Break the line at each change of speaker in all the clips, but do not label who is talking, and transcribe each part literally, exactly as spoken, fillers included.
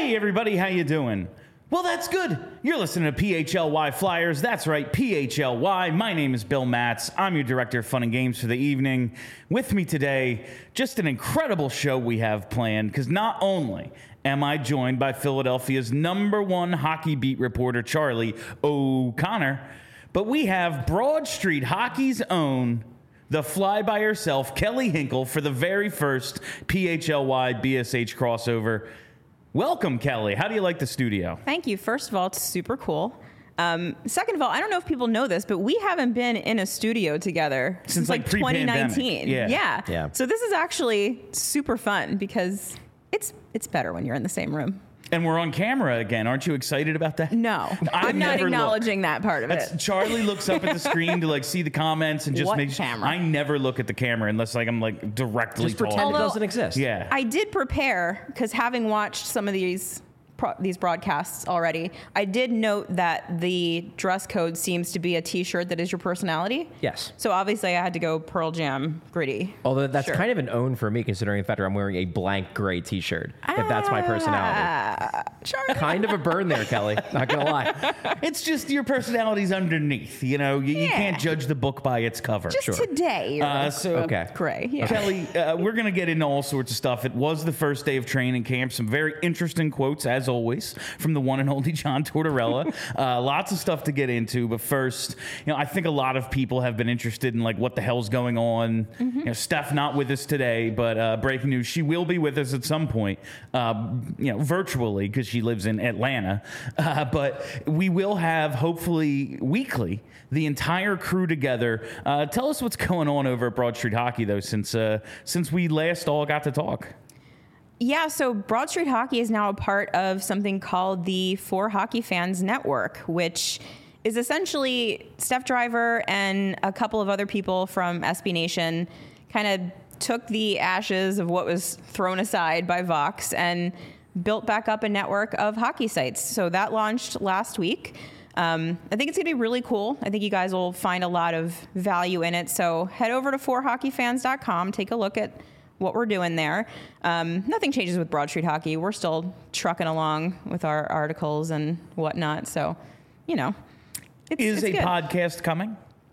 Hey everybody, how you doing? Well, that's good. You're listening to P H L Y Flyers. That's right, P H L Y. My name is Bill Matz. I'm your director of fun and games for the evening. With me today, just an incredible show we have planned, because not only am I joined by Philadelphia's number one hockey beat reporter, Charlie O'Connor, but we have Broad Street Hockey's own, the fly-by-herself, Kelly Hinkle, for the very first P H L Y B S H crossover. Welcome, Kelly. How do you like the studio?
Thank you. First of all, it's super cool. Um, second of all, I don't know if people know this, but we haven't been in a studio together since, since like, like twenty nineteen.
Yeah.
yeah.
Yeah.
So this is actually super fun because it's it's better when you're in the same room.
And we're on camera again. Aren't you excited about that?
No, I'm not acknowledging
look.
that part of
That's,
it.
Charlie looks up at the screen to like see the comments and just
What
makes.
camera?
I never look at the camera unless like I'm like directly.
Just pretend
talking.
it doesn't exist.
Yeah.
I did prepare because having watched some of these pro- these broadcasts already, I did note that the dress code seems to be a T-shirt that is your personality.
Yes.
So obviously, I had to go Pearl Jam gritty.
Although that's
Sure.
kind of an own for me, considering the fact that I'm wearing a blank gray T-shirt. If that's my personality.
Ah, Charlie.
Kind of a burn there, Kelly. Not gonna lie.
It's just your personality's underneath. You know, you, you
Yeah.
can't judge the book by its cover.
Just
Sure.
today. You're
Uh,
a-
so-
a
Okay.
Gray. Yeah.
Kelly, uh, we're going to get into all sorts of stuff. It was the first day of training camp. Some very interesting quotes, as always, from the one and only John Tortorella. uh, lots of stuff to get into. But first, you know, I think a lot of people have been interested in, like, what the hell's going on. Mm-hmm. You know, Steph not with us today, but uh, breaking news, she will be with us at some point, uh, you know, virtually, because she lives in Atlanta. Uh, but we will have, hopefully, weekly, the entire crew together. Uh, tell us what's going on over at Broad Street Hockey, though, since uh, since we last all got to talk.
Yeah, so Broad Street Hockey is now a part of something called the For Hockey Fans Network, which is essentially Steph Driver and a couple of other people from S B Nation kind of took the ashes of what was thrown aside by Vox and built back up a network of hockey sites. So that launched last week. Um, I think it's going to be really cool. I think you guys will find a lot of value in it. So head over to for hockey fans dot com, take a look at what we're doing there. Um, nothing changes with Broad Street Hockey. We're still trucking along with our articles and whatnot. So, you know, it's,
Is
it's
a
good.
podcast coming?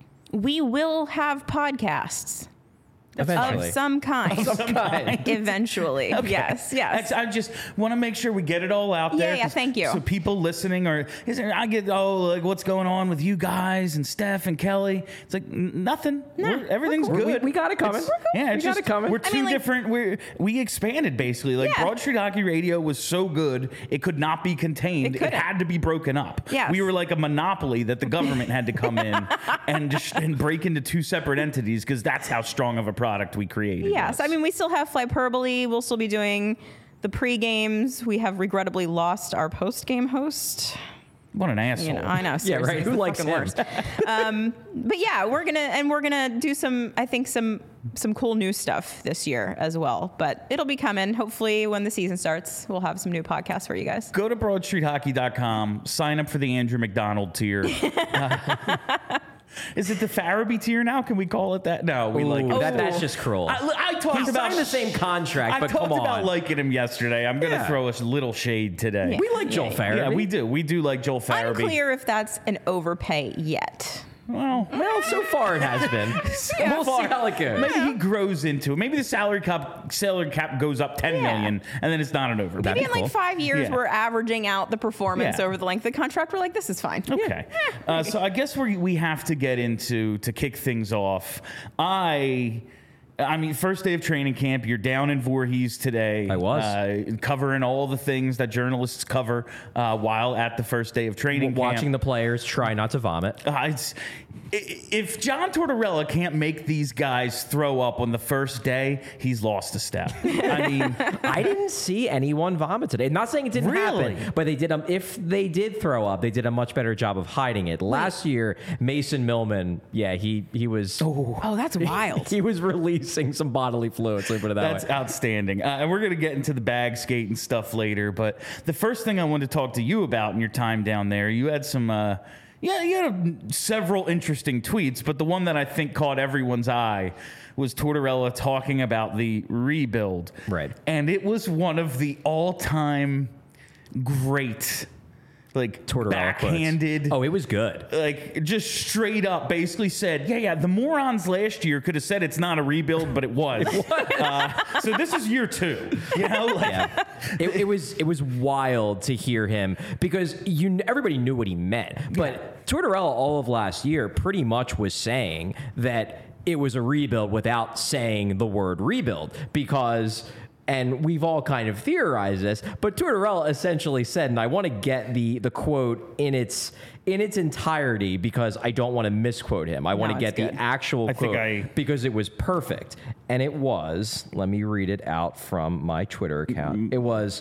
We will have podcasts.
Eventually.
Of some kind.
Some kind.
Eventually.
Okay.
Yes, yes.
That's, I just want to make sure we get it all out
Yeah,
there.
yeah,
'cause-
thank you.
So people listening are, is there, I get, oh, like what's going on with you guys and Steph and Kelly? It's like n- nothing.
Nah,
We're- everything's
we're
cool.
good.
We- we got it coming.
It's-
We're cool.
Yeah, it's
We got
just,
it coming.
We're
I
two
mean, like-
different. We we expanded basically. Like
Yeah.
Broad Street Hockey Radio was so good it could not be contained.
It
It,
couldn't.
had to be broken up.
Yes.
We were like a monopoly that the government had to come in and just and break into two separate entities because that's how strong of a product we created.
Yes, I mean, we still have Flyperbole. We'll still be doing the pre-games. We have regrettably lost our post-game host.
What an asshole.
You know, I know.
Yeah,
seriously,
right.
it's
Who
the
likes
fucking
him?
worst. um, but yeah, we're gonna and we're gonna do some. I think some some cool new stuff this year as well. But it'll be coming. Hopefully, when the season starts, we'll have some new podcasts for you guys.
Go to broad street hockey dot com, sign up for the Andrew McDonald tier. Uh, is it the Farabee tier now? Can we call it that? No, we
Ooh,
like it.
that, that's just cruel.
I, I talked
He
about
signed the same contract,
I
but
talked
come on.
about liking him yesterday. I'm going to
Yeah.
throw a little shade today.
we like Joel
Yeah.
Farabee.
Yeah, we do. We do like Joel Farabee.
Unclear if that's an overpay yet.
Well,
Well, so far it has been. We'll see how it goes.
maybe he grows into it. Maybe the salary cap salary cap goes up ten
Yeah.
million, and then it's not an overpay.
Maybe in like
cool.
five years,
Yeah.
we're averaging out the performance
Yeah.
over the length of the contract. We're like, this is fine.
Okay. Uh, so I guess we we have to get into to kick things off. I. I mean, first day of training camp, you're down in Voorhees today.
I was.
Uh, covering all the things that journalists cover uh, while at the first day of training camp.
Watching the players try not to vomit.
Uh, it's, i- if John Tortorella can't make these guys throw up on the first day, he's lost a step. I mean,
I didn't see anyone vomit today. Not saying it didn't
Really?
happen, but they did. Um, if they did throw up, they did a much better job of hiding it. Last year, Mason Millman, yeah, he he was
Oh, that's wild.
he was releasing some bodily fluids. Let me put it that
that's
way.
outstanding. Uh, and we're going to get into the bag skate and stuff later. But the first thing I wanted to talk to you about in your time down there, you had some. Uh, Yeah, you had several interesting tweets, but the one that I think caught everyone's eye was Tortorella talking about the rebuild.
Right.
And it was one of the all-time great, like
Tortorella
backhanded.
quotes. Oh, it was good.
Like just straight up basically said, yeah, yeah, the morons last year could have said it's not a rebuild, but it was. uh, so this is year two, you know? Like,
Yeah. It, it was it was wild to hear him because you everybody knew what he meant. But Tortorella all of last year pretty much was saying that it was a rebuild without saying the word rebuild because. And we've all kind of theorized this, but Tortorella essentially said, and I want to get the the quote in its in its entirety because I don't want to misquote him. I want
No,
to
it's
get
good.
the actual
I think
quote
I-
because it was perfect. And it was, let me read it out from my Twitter account. It was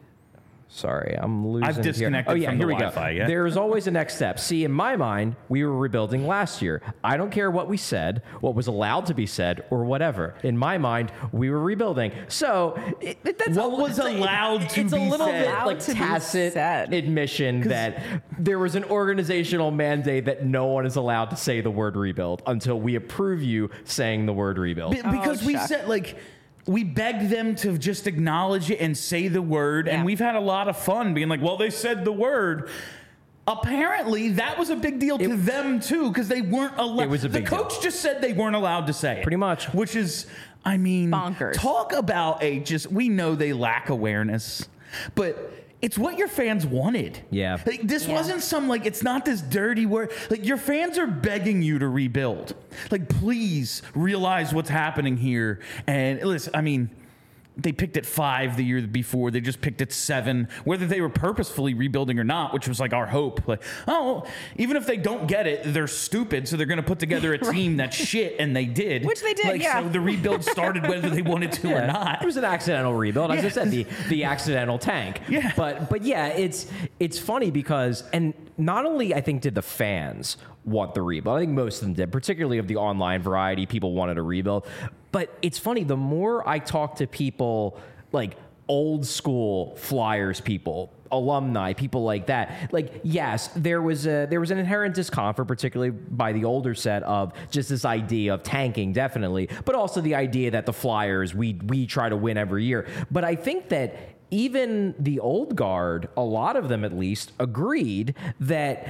Sorry, I'm losing
I've
it here.
disconnected
Oh, yeah,
from
here
the
we go.
Wi-Fi, yeah.
There's always a next step. See, in my mind, we were rebuilding last year. I don't care what we said, what was allowed to be said, or whatever. In my mind, we were rebuilding. So, it, it- that's
What
a,
was
it's a-
allowed to
It's a
be
little
said?
bit
Allowed
like
to be
tacit
said.
admission that there was an organizational mandate that no one is allowed to say the word rebuild until we approve you saying the word rebuild.
Be- because
Oh,
we
shucks.
said like we begged them to just acknowledge it and say the word,
Yeah.
and we've had a lot of fun being like, well, they said the word. Apparently, that was a big deal to them too, because they weren't allowed.
It was a big
the coach
deal.
just said they weren't allowed to say it,
Pretty much.
which is, I mean,
Bonkers.
Talk about a just. We know they lack awareness, but. It's what your fans wanted.
Yeah.
Like, this
Yeah.
wasn't some, like, it's not this dirty word. Like, your fans are begging you to rebuild. Like, please realize what's happening here. And listen, I mean, they picked at five the year before. They just picked at seven, whether they were purposefully rebuilding or not, which was like our hope. Like, oh, even if they don't get it, they're stupid, so they're going to put together a team that's shit, and they did.
Which they did,
like,
yeah.
So the rebuild started whether they wanted to or
Yeah,
not.
It was an accidental rebuild. As I
Yeah.
said, the the accidental tank.
Yeah.
But but yeah, it's it's funny because and not only I think did the fans want the rebuild. I think most of them did, particularly of the online variety. People wanted a rebuild. But it's funny, the more I talk to people like old school Flyers people, alumni, people like that. Like, yes, there was a there was an inherent discomfort, particularly by the older set, of just this idea of tanking, definitely, but also the idea that the Flyers, we we try to win every year. But I think that even the old guard, a lot of them at least, agreed that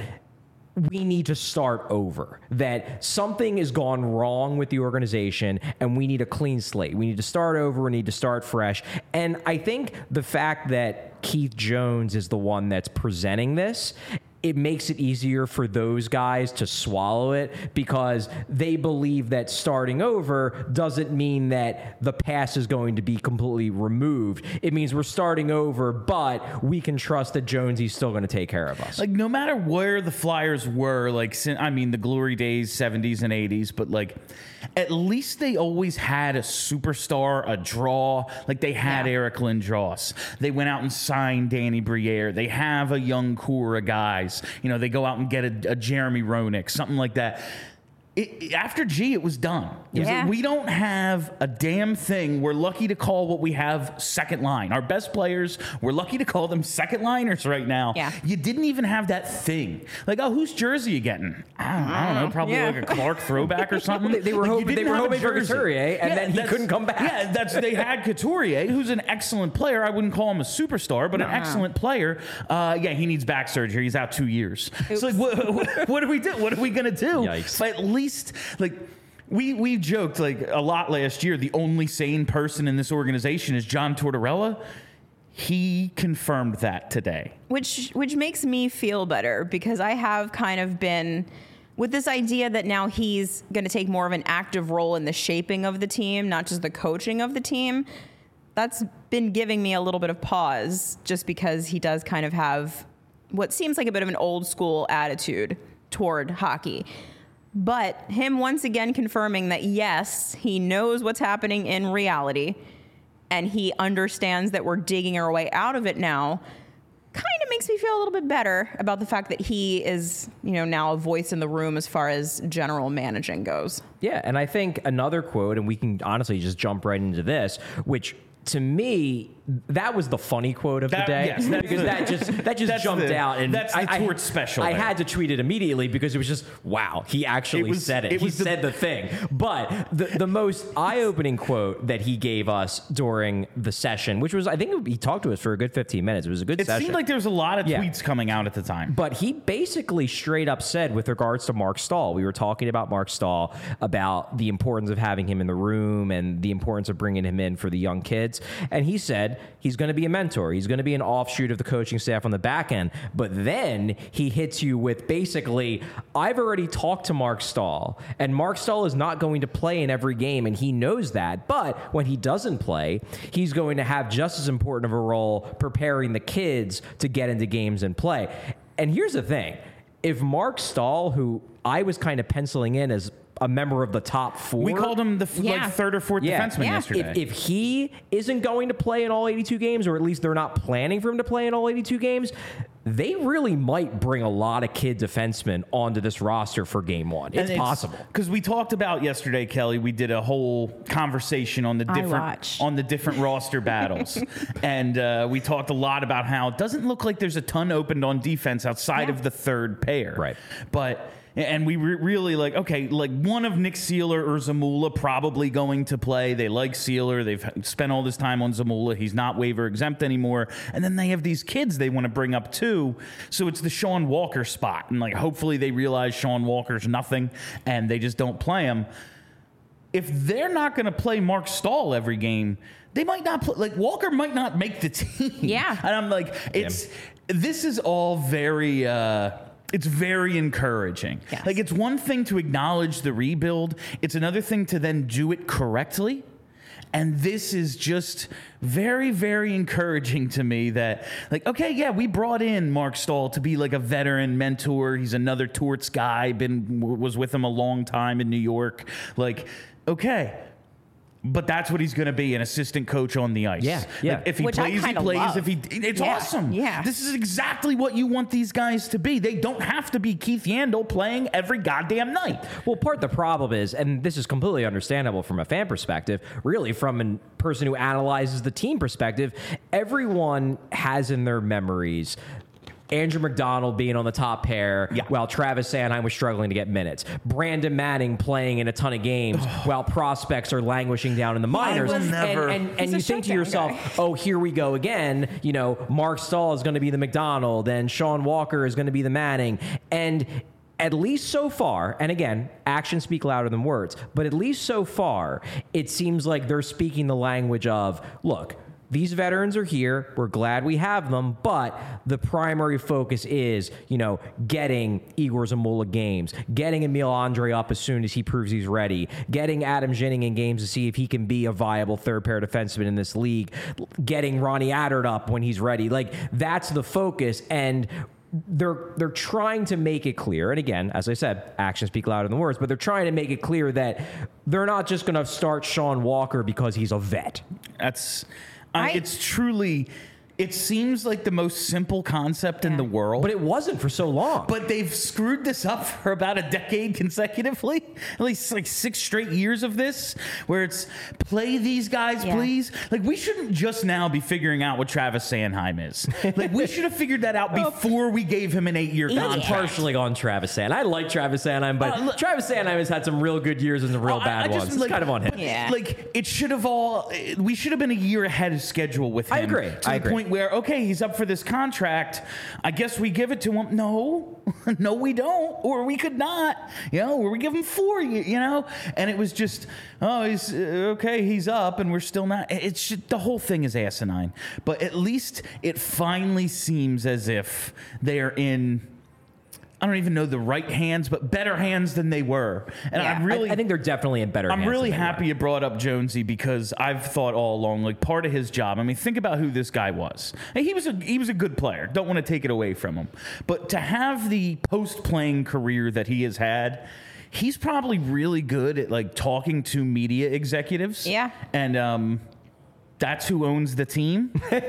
we need to start over, that something has gone wrong with the organization and we need a clean slate. We need to start over. We need to start fresh. And I think the fact that Keith Jones is the one that's presenting this, it makes it easier for those guys to swallow it because they believe that starting over doesn't mean that the past is going to be completely removed. It means we're starting over, but we can trust that Jonesy's still going to take care of us.
Like, no matter where the Flyers were, like, sin- I mean, the glory days, seventies and eighties, but, like, at least they always had a superstar, a draw. Like, they had
Yeah.
Eric Lindros. They went out and signed Danny Briere. They have a young core of guys. You know, they go out and get a, a Jeremy Roenick, something like that. It, after G, it was done. It was
Yeah.
like, we don't have a damn thing. We're lucky to call what we have second line. Our best players, we're lucky to call them second liners right now.
Yeah.
You didn't even have that thing. Like, oh, whose jersey you getting? I don't, I don't know. Probably
Yeah.
like a Clark throwback or something.
They- they were
Like, you
hoping- they
didn't
were
have a
hoping for
jersey.
Couturier, and then he
that's-
couldn't come back.
Yeah, that's they had Couturier, who's an excellent player. I wouldn't call him a superstar, but an excellent player. Uh, yeah, he needs back surgery. He's out two years. So like, what, what, what do we do? What are we gonna do?
Yikes.
But at least like. We we joked like a lot last year. The only sane person in this organization is John Tortorella. He confirmed that today.
which which makes me feel better because I have kind of been with this idea that now he's going to take more of an active role in the shaping of the team, not just the coaching of the team. That's been giving me a little bit of pause just because he does kind of have what seems like a bit of an old school attitude toward hockey. But him once again confirming that, yes, he knows what's happening in reality and he understands that we're digging our way out of it now, kind of makes me feel a little bit better about the fact that he is, you know, now a voice in the room as far as general managing goes.
Yeah, and I think another quote, and we can honestly just jump right into this, which to me, that was the funny quote of
That-
the day
yes, that's
because
the-
that just that just
that's
jumped
the-
out, and
that's the
I,
Torch special
I
there.
had to tweet it immediately because it was just wow, he actually
It was-
said it.
it
he
was the-
said the thing. But the the most eye-opening quote that he gave us during the session, which was I think he talked to us for a good fifteen minutes. It was a good
It
session.
seemed like there was a lot of
Yeah.
tweets coming out at the time.
But he basically straight up said, with regards to Mark Stahl, we were talking about Mark Stahl, about the importance of having him in the room and the importance of bringing him in for the young kids. And he said he's going to be a mentor. He's going to be an offshoot of the coaching staff on the back end. But then he hits you with basically, I've already talked to Mark Stahl, and Mark Stahl is not going to play in every game, and he knows that. But when he doesn't play, he's going to have just as important of a role preparing the kids to get into games and play. And here's the thing. If Mark Stahl, who I was kind of penciling in as a member of the top four.
We called him the f-
Yeah.
like third or fourth
Yeah.
defenseman
Yeah.
yesterday.
If, if he isn't going to play in all eighty-two games, or at least they're not planning for him to play in all eighty-two games, they really might bring a lot of kid defensemen onto this roster for game one. It's, possible.
Because we talked about yesterday, Kelly, we did a whole conversation on the
I
different
watched.
on the different roster battles. And uh, we talked a lot about how it doesn't look like there's a ton opened on defense outside
Yeah.
of the third pair.
Right.
But and we re- really like, okay, like one of Nick Seeler or Zamula probably going to play. They like Seeler. They've spent all this time on Zamula. He's not waiver exempt anymore. And then they have these kids they want to bring up too. So it's the Sean Walker spot. And like, hopefully they realize Sean Walker's nothing and they just don't play him. If they're not going to play Mark Stahl every game, they might not play. Like Walker might not make the team.
Yeah.
And I'm like, it's, this is all very, uh, it's very encouraging.
Yes.
Like, it's one thing to acknowledge the rebuild. It's another thing to then do it correctly. And this is just very, very encouraging to me that, like, okay, yeah, we brought in Mark Stahl to be like a veteran mentor. He's another Torts guy, been was with him a long time in New York. Like, okay. But that's what he's going to be, an assistant coach on the ice.
Yeah, yeah.
Like, if he
Which I
plays, he
kinda
plays.
love.
If he, it's
Yeah,
awesome.
yeah.
This is exactly what you want these guys to be. They don't have to be Keith Yandel playing every goddamn night.
Well, part of the problem is, and this is completely understandable from a fan perspective, really from a person who analyzes the team perspective, everyone has in their memories Andrew McDonald being on the top pair
Yeah.
while Travis Sanheim was struggling to get minutes. Brandon Manning playing in a ton of games while prospects are languishing down in the minors.
will
And,
never-
and, and
He's
you
a
think to
shutdown
yourself,
guy.
oh, here we go again. You know, Mark Stahl is going to be the McDonald and Sean Walker is going to be the Manning. And at least so far, and again, actions speak louder than words, but at least so far, it seems like they're speaking the language of, look, these veterans are here. We're glad we have them, but the primary focus is, you know, getting Igor Zamula games, getting Emil Andre up as soon as he proves he's ready, getting Adam Ginning in games to see if he can be a viable third pair defenseman in this league, getting Ronnie Attard up when he's ready. Like, that's the focus. And they're they're trying to make it clear, and again, as I said, actions speak louder than words, but they're trying to make it clear that they're not just going to start Sean Walker because he's a vet.
That's, I,
I-
it's truly, it seems like the most simple concept in
Yeah.
the world.
But it wasn't for so long.
But they've screwed this up for about a decade consecutively. At least like six straight years of this, where it's play these guys,
Yeah.
please. Like, we shouldn't just now be figuring out what Travis Sanheim is. Like, we should have figured that out before we gave him an eight-year
Yeah.
I'm
contract.
partially on Travis Sanheim. I like Travis Sanheim, but
Uh, look-
Travis Sanheim has had some real good years and some real
I-
bad
I just,
ones. It's
like-
kind of on him.
Yeah.
Like, it should have all, we should have been a year ahead of schedule with him.
I agree.
To
I
the
agree.
point where, okay, he's up for this contract. I guess we give it to him. No, no, we don't. Or we could not, you know, or we give him four, you, you know? And it was just, oh, he's, uh, okay, he's up and we're still not. It's just, the whole thing is asinine. But at least it finally seems as if they are in, I don't even know the right hands, but better hands than they were. And
Yeah.
I'm really,
I, I think they're definitely in better
I'm
hands
really
than they were.
happy you brought up Jonesy, because I've thought all along, like, part of his job. I mean, think about who this guy was. And he was a he was a good player. Don't want to take it away from him, but to have the post-playing career that he has had, he's probably really good at like talking to media executives.
Yeah.
And um, That's who owns the team.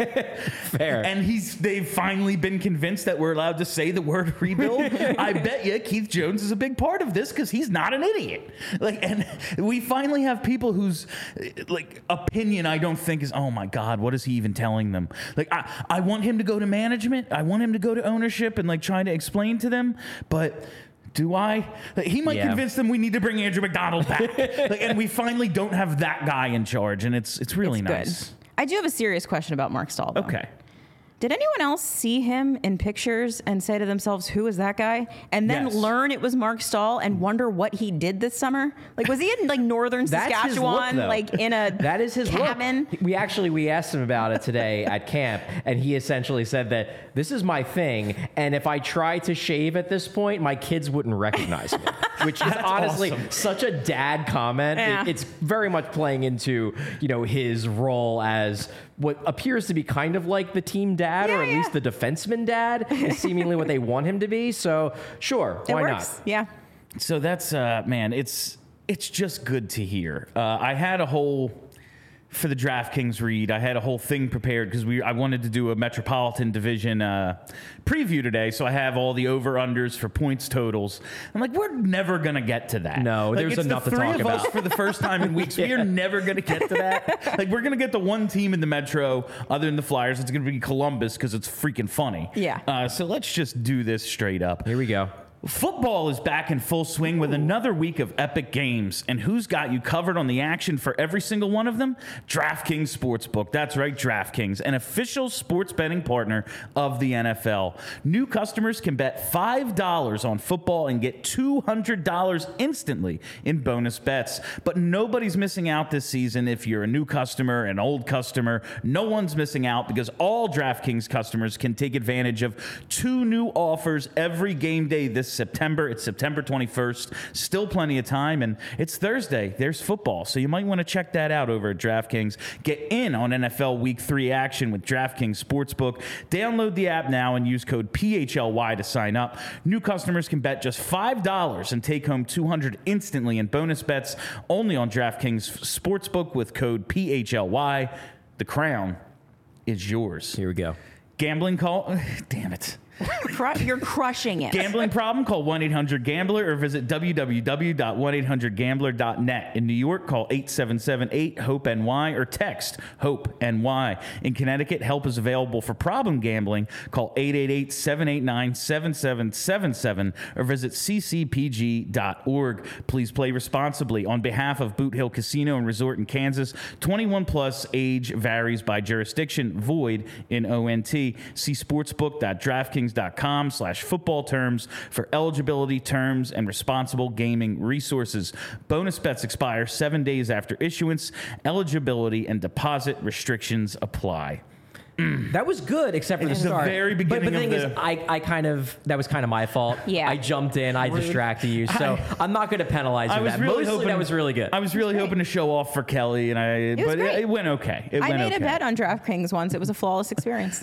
Fair.
And he's they've finally been convinced that we're allowed to say the word rebuild. I bet you Keith Jones is a big part of this because he's not an idiot. Like, and we finally have people whose like opinion I don't think is, oh my God, what is he even telling them? Like, I, I want him to go to management. I want him to go to ownership and like trying to explain to them, but do I? Like, he might
Yeah.
convince them we need to bring Andrew McDonald back. Like, and we finally don't have that guy in charge, and it's it's really
It's
nice.
good. I do have a serious question about Mark Stahl, though.
Okay.
Did anyone else see him in pictures and say to themselves, who is that guy? And then
Yes.
learn it was Mark Stahl and wonder what he did this summer? Like, was he in like northern
That's his look,
Saskatchewan,
though.
like in a
That is his
cabin?
look. We actually we asked him about it today at camp, and he essentially said that this is my thing, and if I try to shave at this point, my kids wouldn't recognize me. Which is honestly
awesome.
such a dad comment. It-
Yeah.
it's very much playing into, you know, his role as what appears to be kind of like the team dad,
Yeah,
or at
yeah.
least the defenseman dad, is seemingly what they want him to be. So sure,
It
why
works.
not?
Yeah.
So that's uh, man, it's it's just good to hear. Uh, I had a whole for the DraftKings read. I had a whole thing prepared because we I wanted to do a Metropolitan Division uh, preview today. So I have all the over unders for points totals. I'm like, we're never gonna get to that.
No,
Like,
there's
it's
enough
the
to
three
talk
of us
about.
for the first time in weeks. We are never gonna get to that. Like, we're gonna get the one team in the Metro other than the Flyers. It's gonna be Columbus because it's freaking funny.
Yeah.
Uh, so let's just do this straight up.
Here we go.
Football is back in full swing with another week of epic games. And who's got you covered on the action for every single one of them? DraftKings Sportsbook. That's right, DraftKings, an official sports betting partner of the N F L. New customers can bet five dollars on football and get two hundred dollars instantly in bonus bets. But nobody's missing out this season if you're a new customer, an old customer. No one's missing out because all DraftKings customers can take advantage of two new offers every game day this September. It's September twenty-first. Still plenty of time, and it's Thursday. There's football, so you might want to check that out over at DraftKings. Get in on N F L Week three action with DraftKings Sportsbook. Download the app now and use code P H L Y to sign up. New customers can bet just five dollars and take home two hundred dollars instantly in bonus bets only on DraftKings Sportsbook with code P H L Y. The crown is yours.
Here we go.
Gambling call? Damn it.
Cru- You're crushing it.
Gambling problem? Call one eight hundred gambler or visit w w w dot one eight hundred gambler dot net. In New York, call eight seven seven eight hope N Y or text HOPE-NY. In Connecticut, help is available for problem gambling. Call eight eight eight seven eight nine seven seven seven seven or visit c c p g dot org. Please play responsibly. On behalf of Boot Hill Casino and Resort in Kansas, twenty-one plus, age varies by jurisdiction, void in O N T. See sportsbook dot draftkings dot com slash football terms for eligibility, terms, and responsible gaming resources. Bonus bets expire seven days after issuance. Eligibility and deposit restrictions apply.
That was good, except for the
It's the
start.
very
but, but
beginning
the thing
of
is,
the-
I, I kind of that was kind of my fault.
Yeah.
I jumped in, I distracted you, so I, am not going to penalize you.
I
for
was
that.
really
Mostly
hoping
that was really good.
I was really hoping to show off for Kelly, and I
was
but
great.
it, it went okay. It
I
went
made
okay.
a bet on DraftKings once. It was a flawless experience.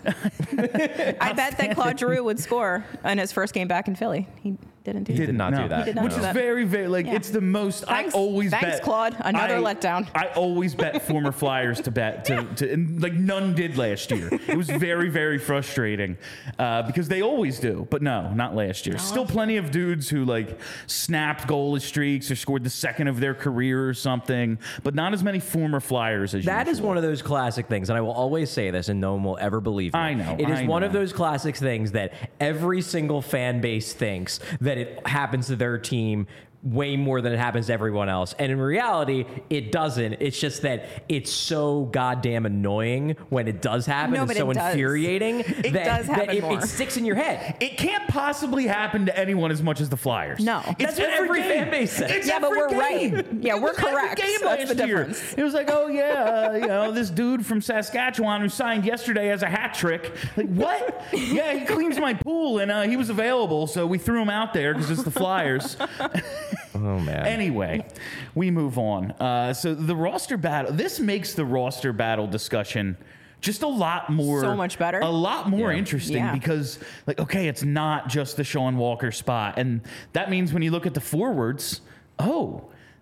I bet that Claude Giroux would score in his first game back in Philly. He didn't do
He
that.
did not
No.
do that.
He did not
Which
do
is
that.
very, very like
Yeah.
it's the most.
Thanks-
I always
thanks,
bet
Claude. Another
I-
letdown.
I always bet former Flyers to bet to, to and like none did last year. It was very, very frustrating uh, because they always do, but no, not last year. Still plenty of dudes who like snapped goalless streaks or scored the second of their career or something, but not as many former Flyers as
That is
usual.
one of those classic things, and I will always say this, and no one will ever believe me.
I know,
It is
I
one of
know.
those classic things that every single fan base thinks that it happens to their team way more than it happens to everyone else. And in reality, it doesn't. It's just that it's so goddamn annoying when it does happen.
No,
and
but
so
it does.
infuriating that,
does
that
happen
it,
more.
it sticks in your head.
It can't possibly happen to anyone as much as the Flyers.
No.
That's what every
game.
fan base says.
It's
Yeah, but
every
we're
game.
right. Yeah,
It
we're
was every
correct.
game
That's
last
the
year.
difference.
It was like, oh yeah, uh, you know, this dude from Saskatchewan who signed yesterday as a hat trick. Like what? Yeah, he cleans my pool, and uh, he was available, so we threw him out there because it's the Flyers.
Oh, man.
Anyway, we move on. Uh, so the roster battle. This makes the roster battle discussion just a lot more,
So much better.
a lot more
Yeah.
interesting
Yeah.
because, like, okay, it's not just the Sean Walker spot, and that means when you look at the forwards, oh,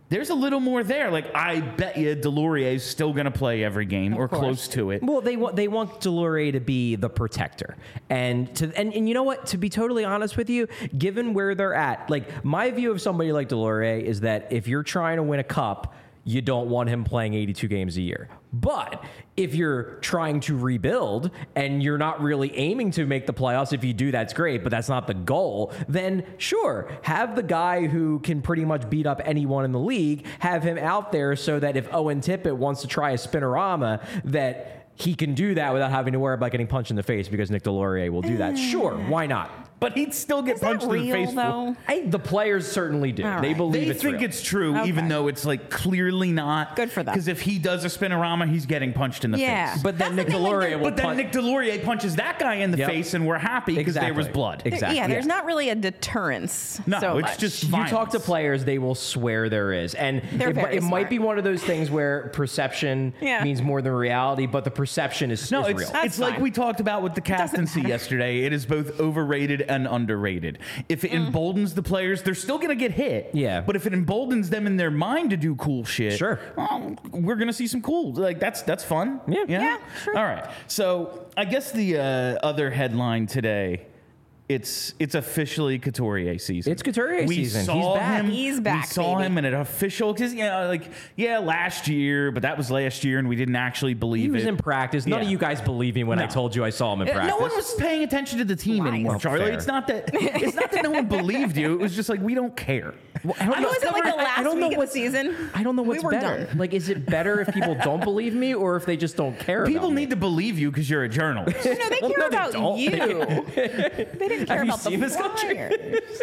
there's a little more there. Like, I bet you Delorier is still going to play every game or
course.
close to it.
Well, they want they want Delorier to be the protector, and to and, and you know what? To be totally honest with you, given where they're at, like my view of somebody like Delorier is that if you're trying to win a cup, you don't want him playing eighty-two games a year. But if you're trying to rebuild and you're not really aiming to make the playoffs, if you do, that's great, but that's not the goal, then sure, have the guy who can pretty much beat up anyone in the league, have him out there so that if Owen Tippett wants to try a spinorama, that he can do that without having to worry about getting punched in the face because Nick Delorier will do that. Sure, why not?
But he'd still get
Is
punched
that
in the
real,
face.
though?
I, the players certainly do.
All
They
right.
believe
They
it's
think
real.
it's true,
Okay.
even though it's like clearly not.
Good for them.
Because if he does a spinorama, he's getting punched in the
Yeah.
face.
But then
That's
Nick
the thing, like,
Delorier
they're-
will
But then
punch-
Nick Delorier punches that guy in the
Yep.
face, and we're happy because there was
Exactly.
blood.
There-
Exactly.
Yeah, there's
Yeah.
not really a deterrence.
No,
so
it's
much.
just
You talk to
violence.
players, they will swear there is. And
They're
it,
very
it might
smart.
be one of those things where perception
Yeah.
means more than reality, but the perception is,
No,
is
it's,
real.
That's
it's like
fine.
we talked about with the captaincy yesterday. It is both overrated and underrated. If it emboldens the players, they're still going to get hit.
Yeah.
But if it emboldens them in their mind to do cool shit,
Sure.
well, we're going to see some cool. Like that's that's fun.
Yeah.
Yeah, sure.
All right. So I guess the uh, other headline today. It's it's officially Couturier season.
It's Couturier
we
season.
Saw
He's back.
Him,
He's back,
We saw
baby.
him in an official because you know, like yeah, last year, but that was last year, and we didn't actually believe
He was
it.
in practice. None
Yeah.
of you guys believe me when I
No.
told you I saw him in
Yeah,
practice.
No one was paying attention to the team
Lies.
anymore,
Well,
Charlie.
fair.
It's not that it's not that no one believed you. It was just like we don't care.
I don't
I
know-
was it like the
I- I
last
don't know
week of
what-
the season.
I don't know what's
we were
better.
done.
Like, is it better if people don't believe me or if they just don't care?
People
about me?
need to believe you because you're a journalist.
No, they
Well,
care
no, they
about
don't.
you. They didn't care
Have you
about the
seen this country?
Flyers.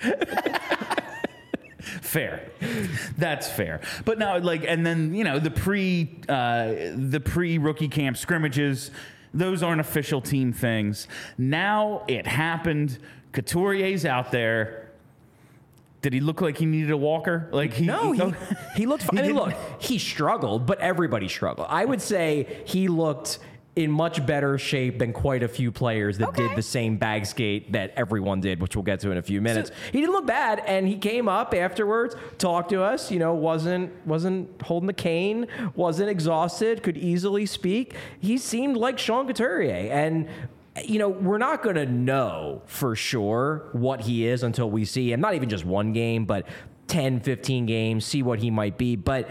Fair, that's fair. But now, like, and then you know the pre uh, the pre rookie camp scrimmages. Those aren't official team things. Now it happened. Couturier's out there. Did he look like he needed a walker? Like he
No, he,
he,
he looked fine. I mean,
didn't-
look, he struggled, but everybody struggled. I would say he looked in much better shape than quite a few players that
Okay.
did the same bag skate that everyone did, which we'll get to in a few minutes. He didn't look bad, and he came up afterwards, talked to us. You know, wasn't wasn't holding the cane, wasn't exhausted, could easily speak. He seemed like Sean Couturier, and. You know, we're not going to know for sure what he is until we see him. Not even just one game, but ten, fifteen games, see what he might be. But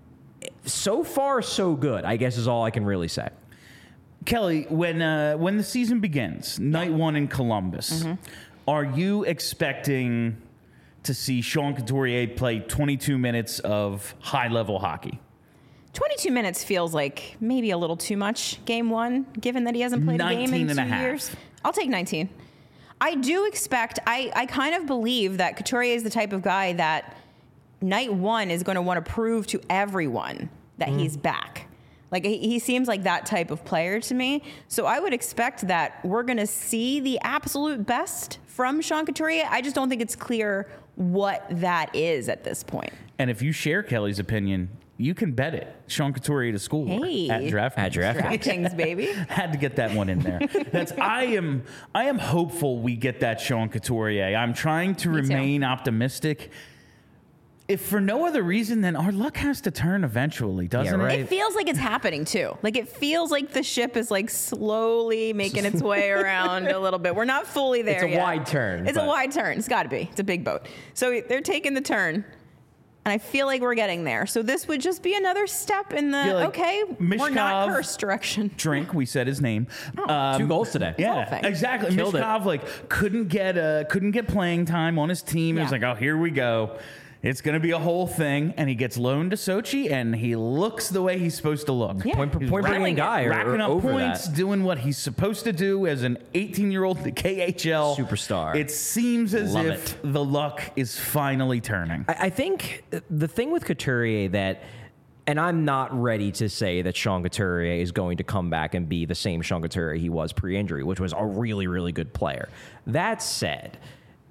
so far, so good, I guess is all I can really say.
Kelly, when uh, when the season begins, night one in Columbus, are you expecting to see Sean Couturier play twenty-two minutes of high level hockey?
twenty-two minutes feels like maybe a little too much game one, given that he hasn't played a game
nineteen
in
and a
two
half.
years. I'll take nineteen. I do expect, I, I kind of believe that Couturier is the type of guy that night one is going to want to prove to everyone that
Mm.
he's back. Like, he, he seems like that type of player to me. So I would expect that we're going to see the absolute best from Sean Couturier. I just don't think it's clear what that is at this point.
And if you share Kelly's opinion, you can bet it. Sean Couturier to school
Hey.
at draft.
At draft.
DraftKings, baby.
Had to get that one in there. That's I am I am hopeful we get that Sean Couturier. I'm trying to
Me too.
remain optimistic. If for no other reason, then our luck has to turn eventually, doesn't
Yeah, right.
it?
It feels like it's happening too. Like it feels like the ship is like slowly making its way around a little bit. We're not fully there
It's a
yet.
wide turn,
It's a
but-
wide turn. It's got to be. It's a big boat. So they're taking the turn. And I feel like we're getting there. So this would just be another step in the
Yeah, like
okay, we're not
Mishkov-
cursed direction.
Drink, we said his name. Um,
Two goals today.
Yeah,
thing.
exactly.
Killed it.
Mishkov like couldn't get uh, couldn't get playing time on his team. It was
Yeah.
like, oh, here we go. It's going to be a whole thing, and he gets loaned to Sochi, and he looks the way he's supposed to look.
Yeah.
Point,
He's
point bringing
racking-
guy or,
racking
or
up
over
points,
that.
doing what he's supposed to do as an eighteen-year-old in the K H L
Superstar.
It seems as
Love
if
it.
the luck is finally turning.
I, I think the thing with Couturier that, and I'm not ready to say that Sean Couturier is going to come back and be the same Sean Couturier he was pre-injury, which was a really, really good player. That said,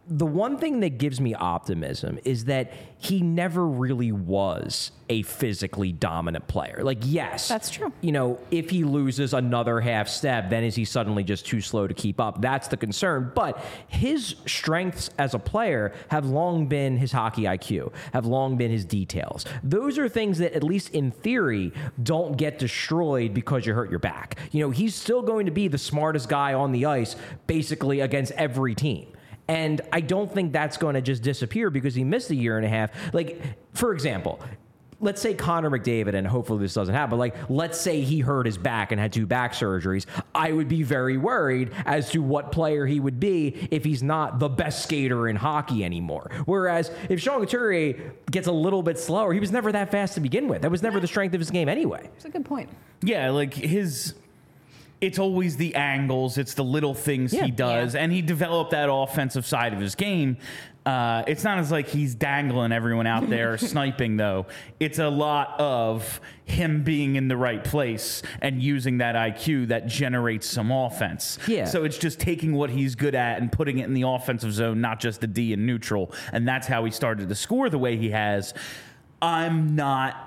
the one thing that gives me optimism is that he never really was a physically dominant player. Like, yes,
That's true.
You know, if he loses another half step, then is he suddenly just too slow to keep up? That's the concern. But his strengths as a player have long been his hockey I Q, have long been his details. Those are things that, at least in theory, don't get destroyed because you hurt your back. You know, he's still going to be the smartest guy on the ice, basically against every team. And I don't think that's going to just disappear because he missed a year and a half. Like, for example, let's say Connor McDavid, and hopefully this doesn't happen, but like, let's say he hurt his back and had two back surgeries. I would be very worried as to what player he would be if he's not the best skater in hockey anymore. Whereas if Sean Couturier gets a little bit slower, he was never that fast to begin with. That was never the strength of his game anyway.
That's a good point.
Yeah, like his... It's always the angles. It's the little things
Yeah.
he does.
Yeah.
And he developed that offensive side of his game. Uh, it's not as like he's dangling everyone out there sniping, though. It's a lot of him being in the right place and using that I Q that generates some offense.
Yeah.
So it's just taking what he's good at and putting it in the offensive zone, not just the D and neutral. And that's how he started to score the way he has. I'm not...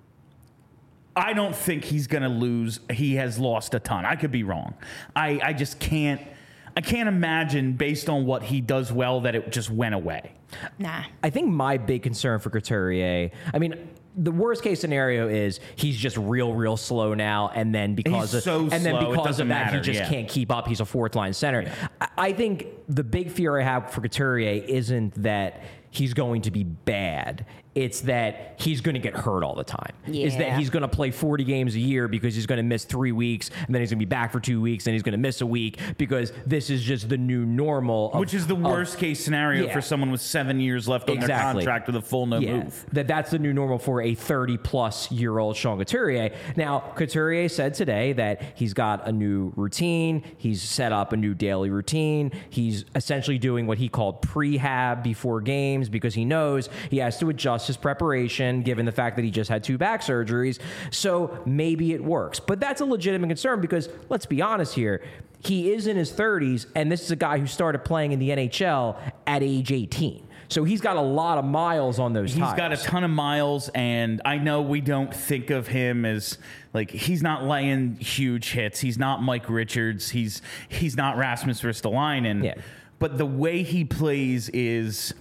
I don't think he's going to lose. He has lost a ton. I could be wrong. I, I just can't. I can't imagine, based on what he does well, that it just went away.
Nah.
I think my big concern for Couturier, I mean, the worst case scenario is he's just real, real slow now, and then because
He's
of,
so
and then
slow, it
because
doesn't
of that,
matter,
he just
yeah.
can't keep up. He's a fourth line center. I, I think the big fear I have for Couturier isn't that he's going to be bad. It's that he's going to get hurt all the time. Is that
Yeah.
he's going to play forty games a year because he's going to miss three weeks, and then he's going to be back for two weeks, and he's going to miss a week because this is just the new normal. Of,
Which is the
of-
worst case scenario
yeah.
for someone with seven years left on their
Exactly.
contract with a full no
Yeah,
move.
that that's the new normal for a thirty-plus-year-old Sean Couturier. Now, Couturier said today that he's got a new routine. He's set up a new daily routine. He's essentially doing what he called prehab before games because he knows he has to adjust his preparation given the fact that he just had two back surgeries. So maybe it works. But that's a legitimate concern because, let's be honest here, he is in his thirties, and this is a guy who started playing in the N H L at age eighteen. So he's got a lot of miles on those
He's
tires.
got a ton of miles, and I know we don't think of him as like he's not laying huge hits. He's not Mike Richards. He's he's not Rasmus Ristolainen.
Yeah.
But the way he plays is,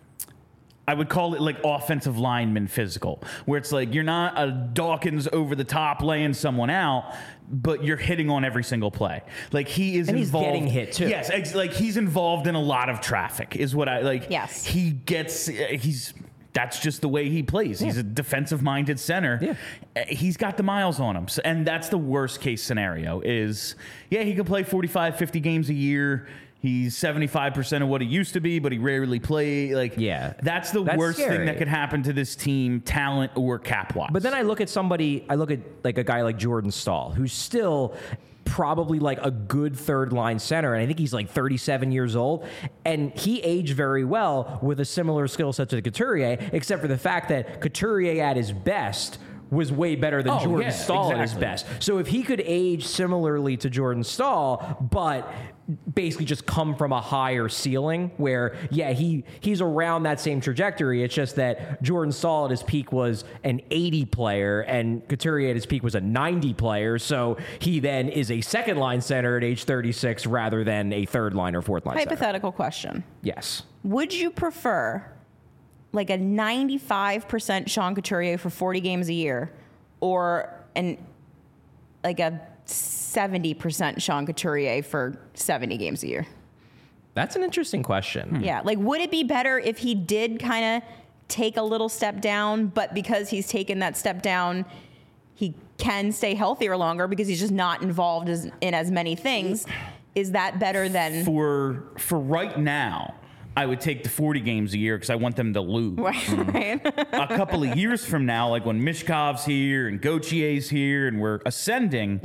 I would call it like offensive lineman physical, where it's like you're not a Dawkins over the top laying someone out, but you're hitting on every single play. Like he is
And he's
involved.
getting hit, too.
Yes, ex- like he's involved in a lot of traffic, is what I like.
Yes.
He gets. He's. That's just the way he plays. He's
Yeah.
a defensive-minded center.
Yeah.
Uh, He's got the miles on him. So, and that's the worst-case scenario is, yeah, he can play forty-five, fifty games a year. He's seventy-five percent of what he used to be, but he rarely play. Like,
Yeah.
that's the
That's
worst thing
scary.
that could happen to this team, talent or cap-wise.
But then I look at somebody, I look at like a guy like Jordan Stahl, who's still probably like a good third line center. And I think he's like thirty-seven years old. And he aged very well with a similar skill set to Couturier, except for the fact that Couturier at his best was way better than
Oh,
Jordan
yeah,
Stahl at his
exactly.
best. So if he could age similarly to Jordan Stahl, but basically just come from a higher ceiling where, yeah, he he's around that same trajectory. It's just that Jordan Stahl at his peak was an eighty player and Couturier at his peak was a ninety player. So he then is a second line center at age thirty-six rather than a third line or fourth line center.
Hypothetical question.
Yes.
Would you prefer like a ninety-five percent Sean Couturier for forty games a year or an like a seventy percent Sean Couturier for seventy games a year?
That's an interesting question.
Yeah. Like, would it be better if he did kind of take a little step down, but because he's taken that step down, he can stay healthier longer because he's just not involved as, in as many things? Is that better than...
for for right now, I would take the forty games a year because I want them to lose.
Right, right.
A couple of years from now, like when Mishkov's here and Gautier's here and we're ascending,
Yeah.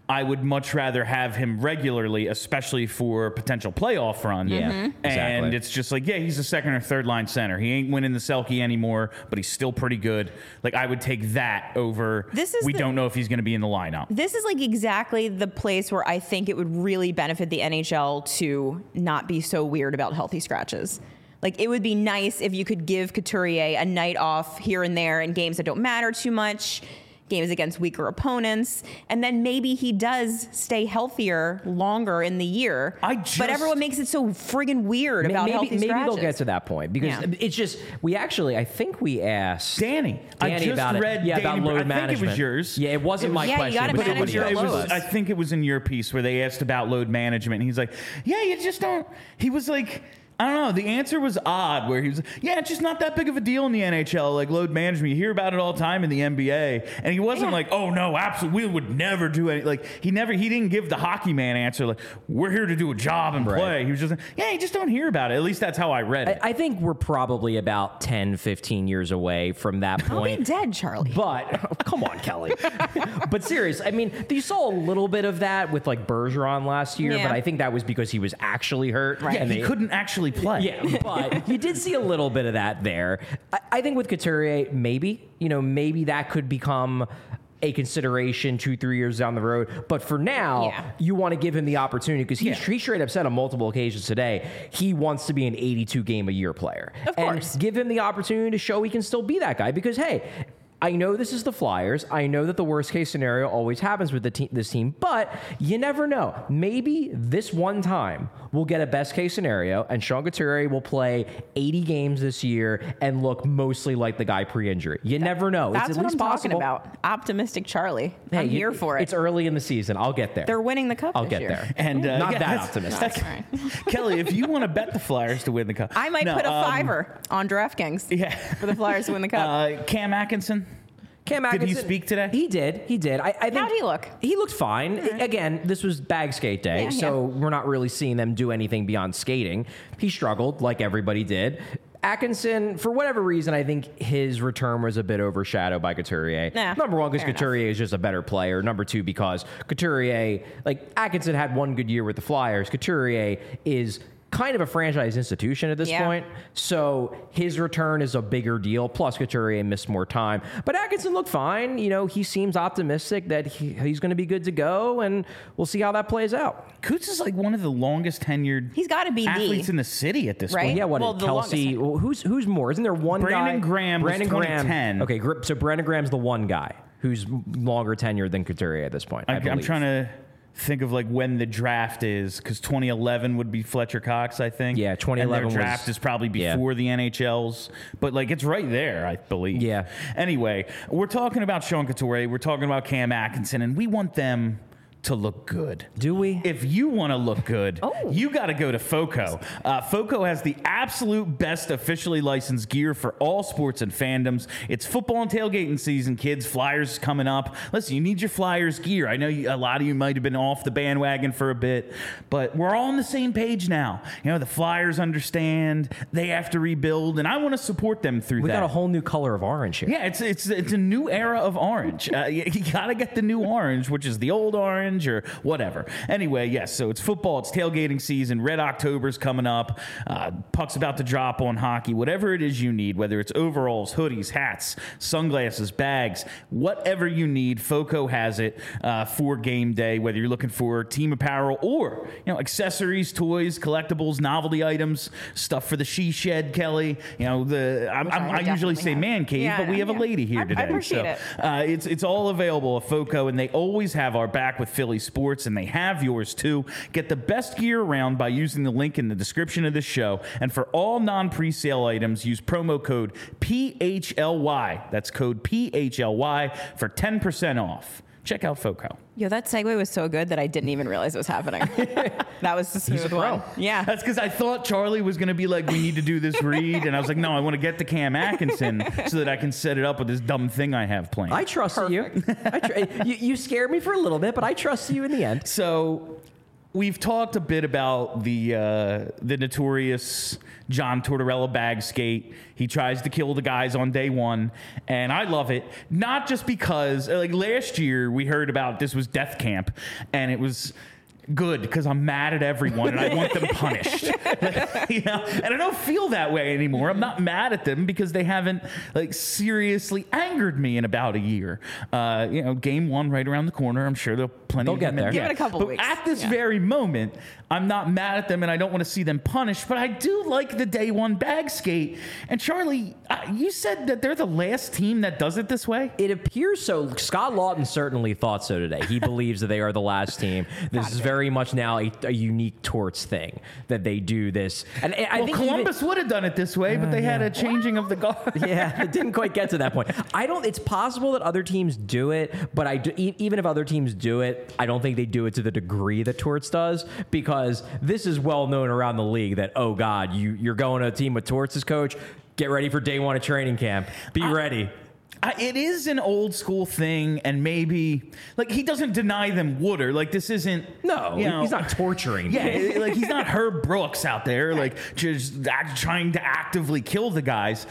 I would much rather have him regularly, especially for potential playoff run.
Yeah,
Mm-hmm.
exactly.
And it's just like, yeah, he's a second or third line center. He ain't winning the Selke anymore, but he's still pretty good. Like, I would take that over.
This is
we
the-
don't know if he's going to be in the lineup.
This is like exactly the place where I think it would really benefit the N H L to not be so weird about healthy scratches. Like, it would be nice if you could give Couturier a night off here and there in games that don't matter too much, games against weaker opponents, and then maybe he does stay healthier longer in the year.
I just-
but everyone makes it so friggin' weird about
maybe
healthy
maybe
scratches.
they'll get to that point because
Yeah.
it's just we actually I think we asked
Danny, I
Danny
just
about
read
it. Yeah,
Danny
about
Br-
load
I think
management.
it was yours.
Yeah, it wasn't
It
my
was-
Yeah, you
question.
gotta
but
manage
somebody
your
it
else's
was,
loads.
I think it was in your piece where they asked about load management. And he's like, yeah, you just don't. He was like, I don't know. The answer was odd where he was, yeah, it's just not that big of a deal in the N H L, like load management. You hear about it all the time in the N B A. And he wasn't
Yeah.
like, oh, no, absolutely. We would never do any. Like, he never, he didn't give the hockey man answer, like, we're here to do a job and
Right.
play. He was just like, yeah, you just don't hear about it. At least that's how I read it.
I think we're probably about ten, fifteen years away from that
I'll be
point.
dead, Charlie.
But come on, Kelly. But seriously, I mean, you saw a little bit of that with like Bergeron last year,
Yeah.
but I think that was because he was actually hurt.
Right.
yeah,
and
he
they-
couldn't actually play.
Yeah, but you did see a little bit of that there. I, I think with Couturier, maybe, you know, maybe that could become a consideration two, three years down the road. But for now,
Yeah.
you want to give him the opportunity because he,
Yeah.
he straight up said on multiple occasions today, he wants to be an eighty-two game a year player.
Of course.
And give him the opportunity to show he can still be that guy because, hey, I know this is the Flyers. I know that the worst case scenario always happens with the te- this team, but you never know. Maybe this one time we'll get a best case scenario, and Sean Couturier will play eighty games this year and look mostly like the guy pre-injury. You never know.
That's
it's at
what
least
I'm
possible.
talking about. Optimistic Charlie.
Hey,
I'm
you-
here for it.
It's early in the season. I'll get there.
They're winning the cup
I'll
this
get
year.
there.
And uh,
Not
yeah,
that
that's-
optimistic.
that's-
All right.
Kelly, if you want to bet the Flyers to win the cup,
I might
No,
put a
um,
fiver on DraftKings
Yeah.
for the Flyers to win the cup.
Uh, Cam Atkinson.
Cam
Did he
Atkinson-
speak today?
He did. He did. I, I think
How'd he look?
He looked fine. Again, this was bag skate day,
Yeah,
so we're not really seeing them do anything beyond skating. He struggled like everybody did. Atkinson, for whatever reason, I think his return was a bit overshadowed by Couturier.
Nah,
Number one, because
fair enough.
Couturier is just a better player. Number two, because Couturier, like Atkinson had one good year with the Flyers. Couturier is kind of a franchise institution at this
Yeah.
point. So his return is a bigger deal. Plus, Couturier missed more time. But Atkinson looked fine. You know, he seems optimistic that he, he's going to be good to go, and we'll see how that plays out.
Coots is like one of the longest tenured
He's gotta be the-
athletes in the city at this
Right?
point.
Yeah, what
Well,
did
the
Kelsey?
longest
Who's who's more? Isn't there one
Brandon
guy?
Graham was
Brandon Graham.
twenty ten.
Okay, Gr- so Brandon Graham's the one guy who's longer tenured than Couturier at this point. I,
I, I'm
believe.
trying to think of like when the draft is, because twenty eleven would be Fletcher Cox, I think.
Yeah, twenty eleven
And their
was-
draft is probably
yeah.
before the N H L's, but like it's right there, I believe.
Yeah.
Anyway, we're talking about Sean Couturier, we're talking about Cam Atkinson, and we want them to look good.
Do we?
If you want to look good,
Oh.
you got to go to FOCO. Uh, FOCO has the absolute best officially licensed gear for all sports and fandoms. It's football and tailgating season, kids. Flyers coming up. Listen, you need your Flyers gear. I know you, a lot of you might have been off the bandwagon for a bit, but we're all on the same page now. You know, the Flyers understand they have to rebuild, and I want to support them through
we
that.
got a whole new color of orange here.
Yeah, it's it's it's a new era of orange. Uh, you, you gotta get the new orange, which is the old orange or whatever. Anyway, yes. So it's football. It's tailgating season. Red October's coming up. Uh, puck's about to drop on hockey. Whatever it is you need, whether it's overalls, hoodies, hats, sunglasses, bags, whatever you need, FOCO has it uh, for game day. Whether you're looking for team apparel or you know accessories, toys, collectibles, novelty items, stuff for the she shed, Kelly. You know the I'm,
Which I
I'm,
would
I usually
definitely
say
have.
man cave,
Yeah,
but we have
yeah.
a lady here
I- I
today.
appreciate
so,
it.
Uh, it's it's all available at FOCO, and they always have our back with Philly sports, and they have yours too. Get the best gear around by using the link in the description of this show. And for all non-presale items, use promo code P H L Y. That's code P H L Y for ten percent off. Check out FOCO.
Yo, that segue was so good that I didn't even realize it was happening. That was the smooth one. Yeah.
That's because I thought Charlie was going to be like, we need to do this read. And I was like, no, I want to get to Cam Atkinson so that I can set it up with this dumb thing I have planned.
I trust you. I tr- you. You scared me for a little bit, but I trust you in the end.
So we've talked a bit about the uh, the notorious John Tortorella bag skate. He tries to kill the guys on day one, and I love it. Not just because, like last year, we heard about this was death camp, and it was good because I'm mad at everyone and I want them punished. You know, and I don't feel that way anymore. I'm not mad at them because they haven't like seriously angered me in about a year. Uh, you know, game one right around the corner. I'm sure they'll plenty.
They'll
of
get
them
there.
in-
Give
yeah.
it a couple
but
weeks.
At this
Yeah.
very moment, I'm not mad at them and I don't want to see them punished. But I do like the day one bag skate. And Charlie, uh, you said that they're the last team that does it this way.
It appears so. Scott Lawton certainly thought so today. He believes that they are the last team. This is very much now a, a unique Torts thing that they do this. And I
Well,
think
Columbus would have done it this way, but they had a changing of the guard.
Even, yeah, it didn't quite get to that point. I don't. It's possible that other teams do it, but I do, e- even if other teams do it, I don't think they do it to the degree that Torts does, because this is well known around the league that, oh God, you you're going to a team with Torts as coach. Get ready for day one of training camp. Be
I-
ready.
I, it is an old school thing, and maybe like he doesn't deny them water. Like this isn't
No,
you know,
he's not torturing.
Yeah,
them.
it- like he's not Herb Brooks out there, like just act, trying to actively kill the guys.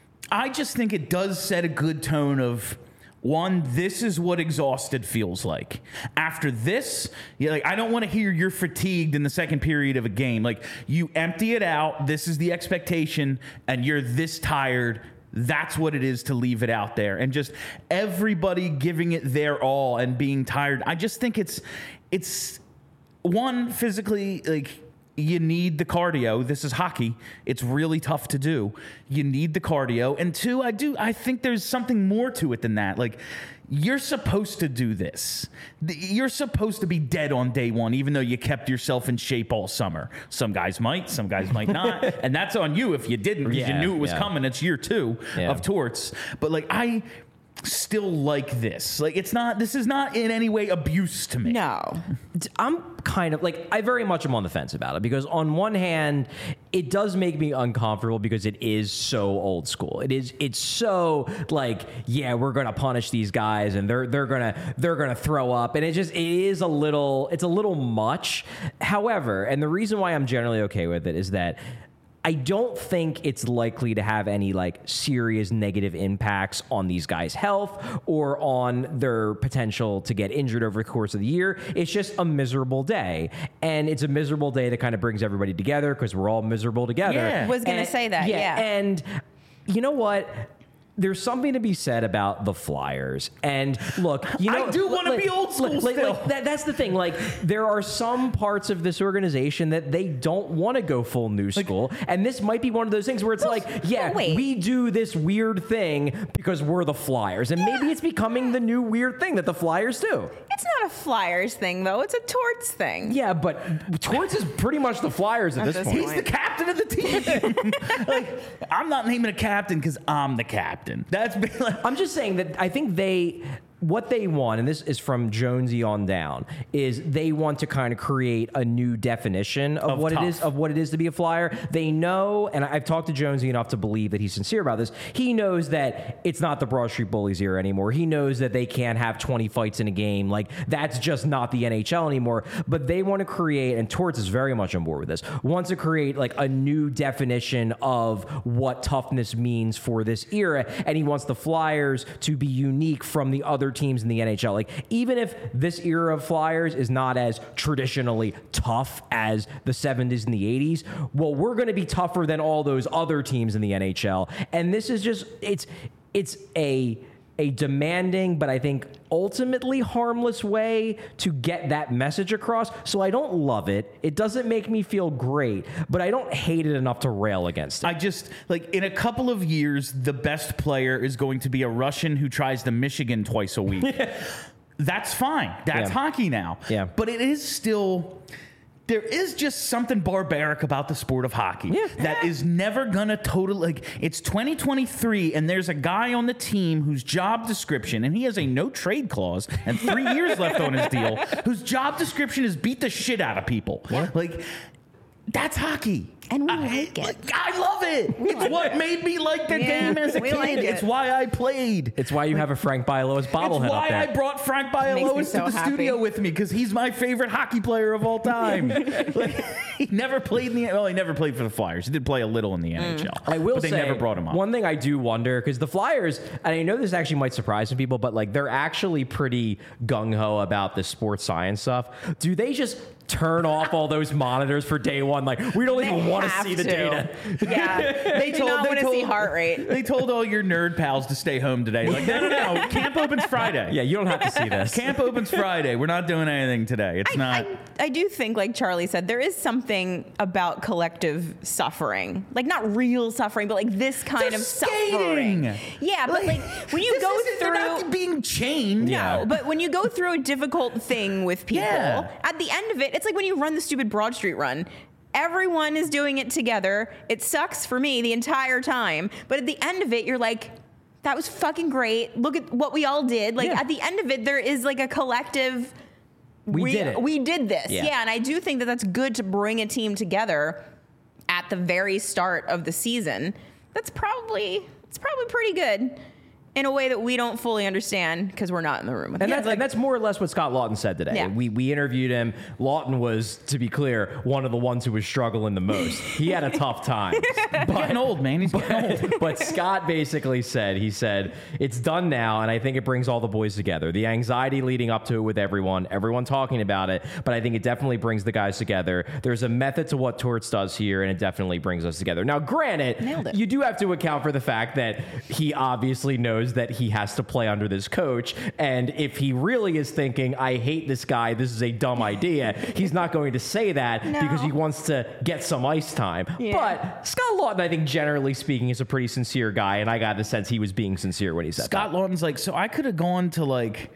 I just think it does set a good tone of. One, this is what exhausted feels like. After this, you're like, I don't want to hear you're fatigued in the second period of a game. Like, you empty it out. This is the expectation, and you're this tired. That's what it is to leave it out there. And just everybody giving it their all and being tired. I just think it's, it's one, physically, like, you need the cardio. This is hockey. It's really tough to do. You need the cardio. And two, I do I think there's something more to it than that. Like, you're supposed to do this. The- You're supposed to be dead on day one, even though you kept yourself in shape all summer. Some guys might, some guys might not. And that's on you if you didn't, because
Yeah,
you knew it was
yeah.
coming. It's year two
Yeah.
of Torts. But like I still like this. Like it's not this is not in any way abuse to me.
No.
I'm kind of like, I very much am on the fence about it, because on one hand, it does make me uncomfortable because it is so old school. It is, it's so like, yeah, we're going to punish these guys and they're, they're going to, they're going to throw up. And it just, it is a little, it's a little much. However, and the reason why I'm generally okay with it is that I don't think it's likely to have any like serious negative impacts on these guys' health or on their potential to get injured over the course of the year. It's just a miserable day. And it's a miserable day that kind of brings everybody together because we're all miserable together.
Yeah.
Was gonna
And-
say that, yeah.
And you know what? There's something to be said about the Flyers. And look, you know,
I do wanna
like-
be old school
like- like-
still.
like, that, that's the thing. Like, there are some parts of this organization that they don't want to go full new school. And this might be one of those things where it's like, yeah,
wait.
we do this weird thing because we're the Flyers. And maybe it's becoming the new weird thing that the Flyers do.
It's not a Flyers thing, though. It's a Torts thing.
Yeah, but Torts is pretty much the Flyers at
At
this
this
point.
He's the captain of the team. Like, I'm not naming a captain because I'm the captain. That's been like,
I'm just saying that I think they, what they want, and this is from Jonesy on down, is they want to kind of create a new definition of,
Of
what
tough.
it is of what it is to be a Flyer. They know, and I've talked to Jonesy enough to believe that he's sincere about this. He knows that it's not the Broad Street Bullies era anymore. He knows that they can't have twenty fights in a game. Like, that's just not the N H L anymore. But they want to create, and Torts is very much on board with this, wants to create like a new definition of what toughness means for this era, and he wants the Flyers to be unique from the other teams in the N H L. Like, even if this era of Flyers is not as traditionally tough as the seventies and the eighties, well, we're going to be tougher than all those other teams in the N H L. And this is just, it's it's a a demanding, but I think ultimately harmless way to get that message across. So I don't love it. It doesn't make me feel great, but I don't hate it enough to rail against it.
I just like in a couple of years, the best player is going to be a Russian who tries to Michigan twice a week. That's fine. That's
Yeah.
hockey now.
Yeah.
But it is still. There is just something barbaric about the sport of hockey
Yeah.
that is never gonna totally like it's twenty twenty-three and there's a guy on the team whose job description, and he has a no trade clause and three years left on his deal, whose job description is beat the shit out of people. Like That's hockey.
And we
I,
like it.
Like, I love it. it's
like
what
it.
made me like the
Yeah,
game as a
we
kid.
like it.
It's why I played.
It's why you have a Frank Bialowas bobblehead
It's why
up there.
I brought Frank
Makes me
Bialowas
so
to the
happy.
studio with me because he's my favorite hockey player of all time. Like, he never played in the well, he never played for the Flyers. He did play a little in the N H L.
I will
but they
say,
never brought him up.
One thing I do wonder, because the Flyers, and I know this actually might surprise some people, but like they're actually pretty gung ho about this sports science stuff. Do they just turn off all those monitors for day one? Like, we don't even
They
want to
have
see the
to.
data.
Yeah, they do
told-
not
they
want to
told-
see heart rate.
They told all your nerd pals to stay home today. Like, no, no, no. Camp opens Friday.
Yeah, you don't have to see this.
Camp opens Friday. We're not doing anything today. It's
I,
not.
I, I do think, like Charlie said, there is something about collective suffering. Like, not real suffering, but like this kind
They're
of
skating.
suffering. Yeah, but like when you
this
go
isn't- they're
through.
not being chained.
No, but when you go through a difficult thing with people,
Yeah.
at the end of it, it's like when you run the stupid Broad Street run. Everyone is doing it together. It sucks for me the entire time. But at the end of it, you're like, that was fucking great. Look at what we all did. Like,
Yeah.
at the end of it, there is like a collective.
We did it.
We did this.
Yeah.
Yeah. And I do think that that's good to bring a team together at the very start of the season. That's probably, it's probably pretty good in a way that we don't fully understand because we're not in the room with
And
them.
that's, and that's more or less what Scott Lawton said today.
Yeah.
We we interviewed him. Lawton was, to be clear, one of the ones who was struggling the most. He had a tough time.
getting old, man. He's getting old.
But Scott basically said, he said, it's done now, and I think it brings all the boys together. The anxiety leading up to it with everyone, everyone talking about it, but I think it definitely brings the guys together. There's a method to what Torts does here, and it definitely brings us together. Now, granted,
Nailed it.
you do have to account for the fact that he obviously knows that he has to play under this coach, and if he really is thinking, I hate this guy, this is a dumb idea, he's not going to say that
No.
because he wants to get some ice time.
Yeah.
But Scott Lawton, I think, generally speaking, is a pretty sincere guy, and I got the sense he was being sincere when he said
Scott
that.
Lawton's like, so I could have gone to like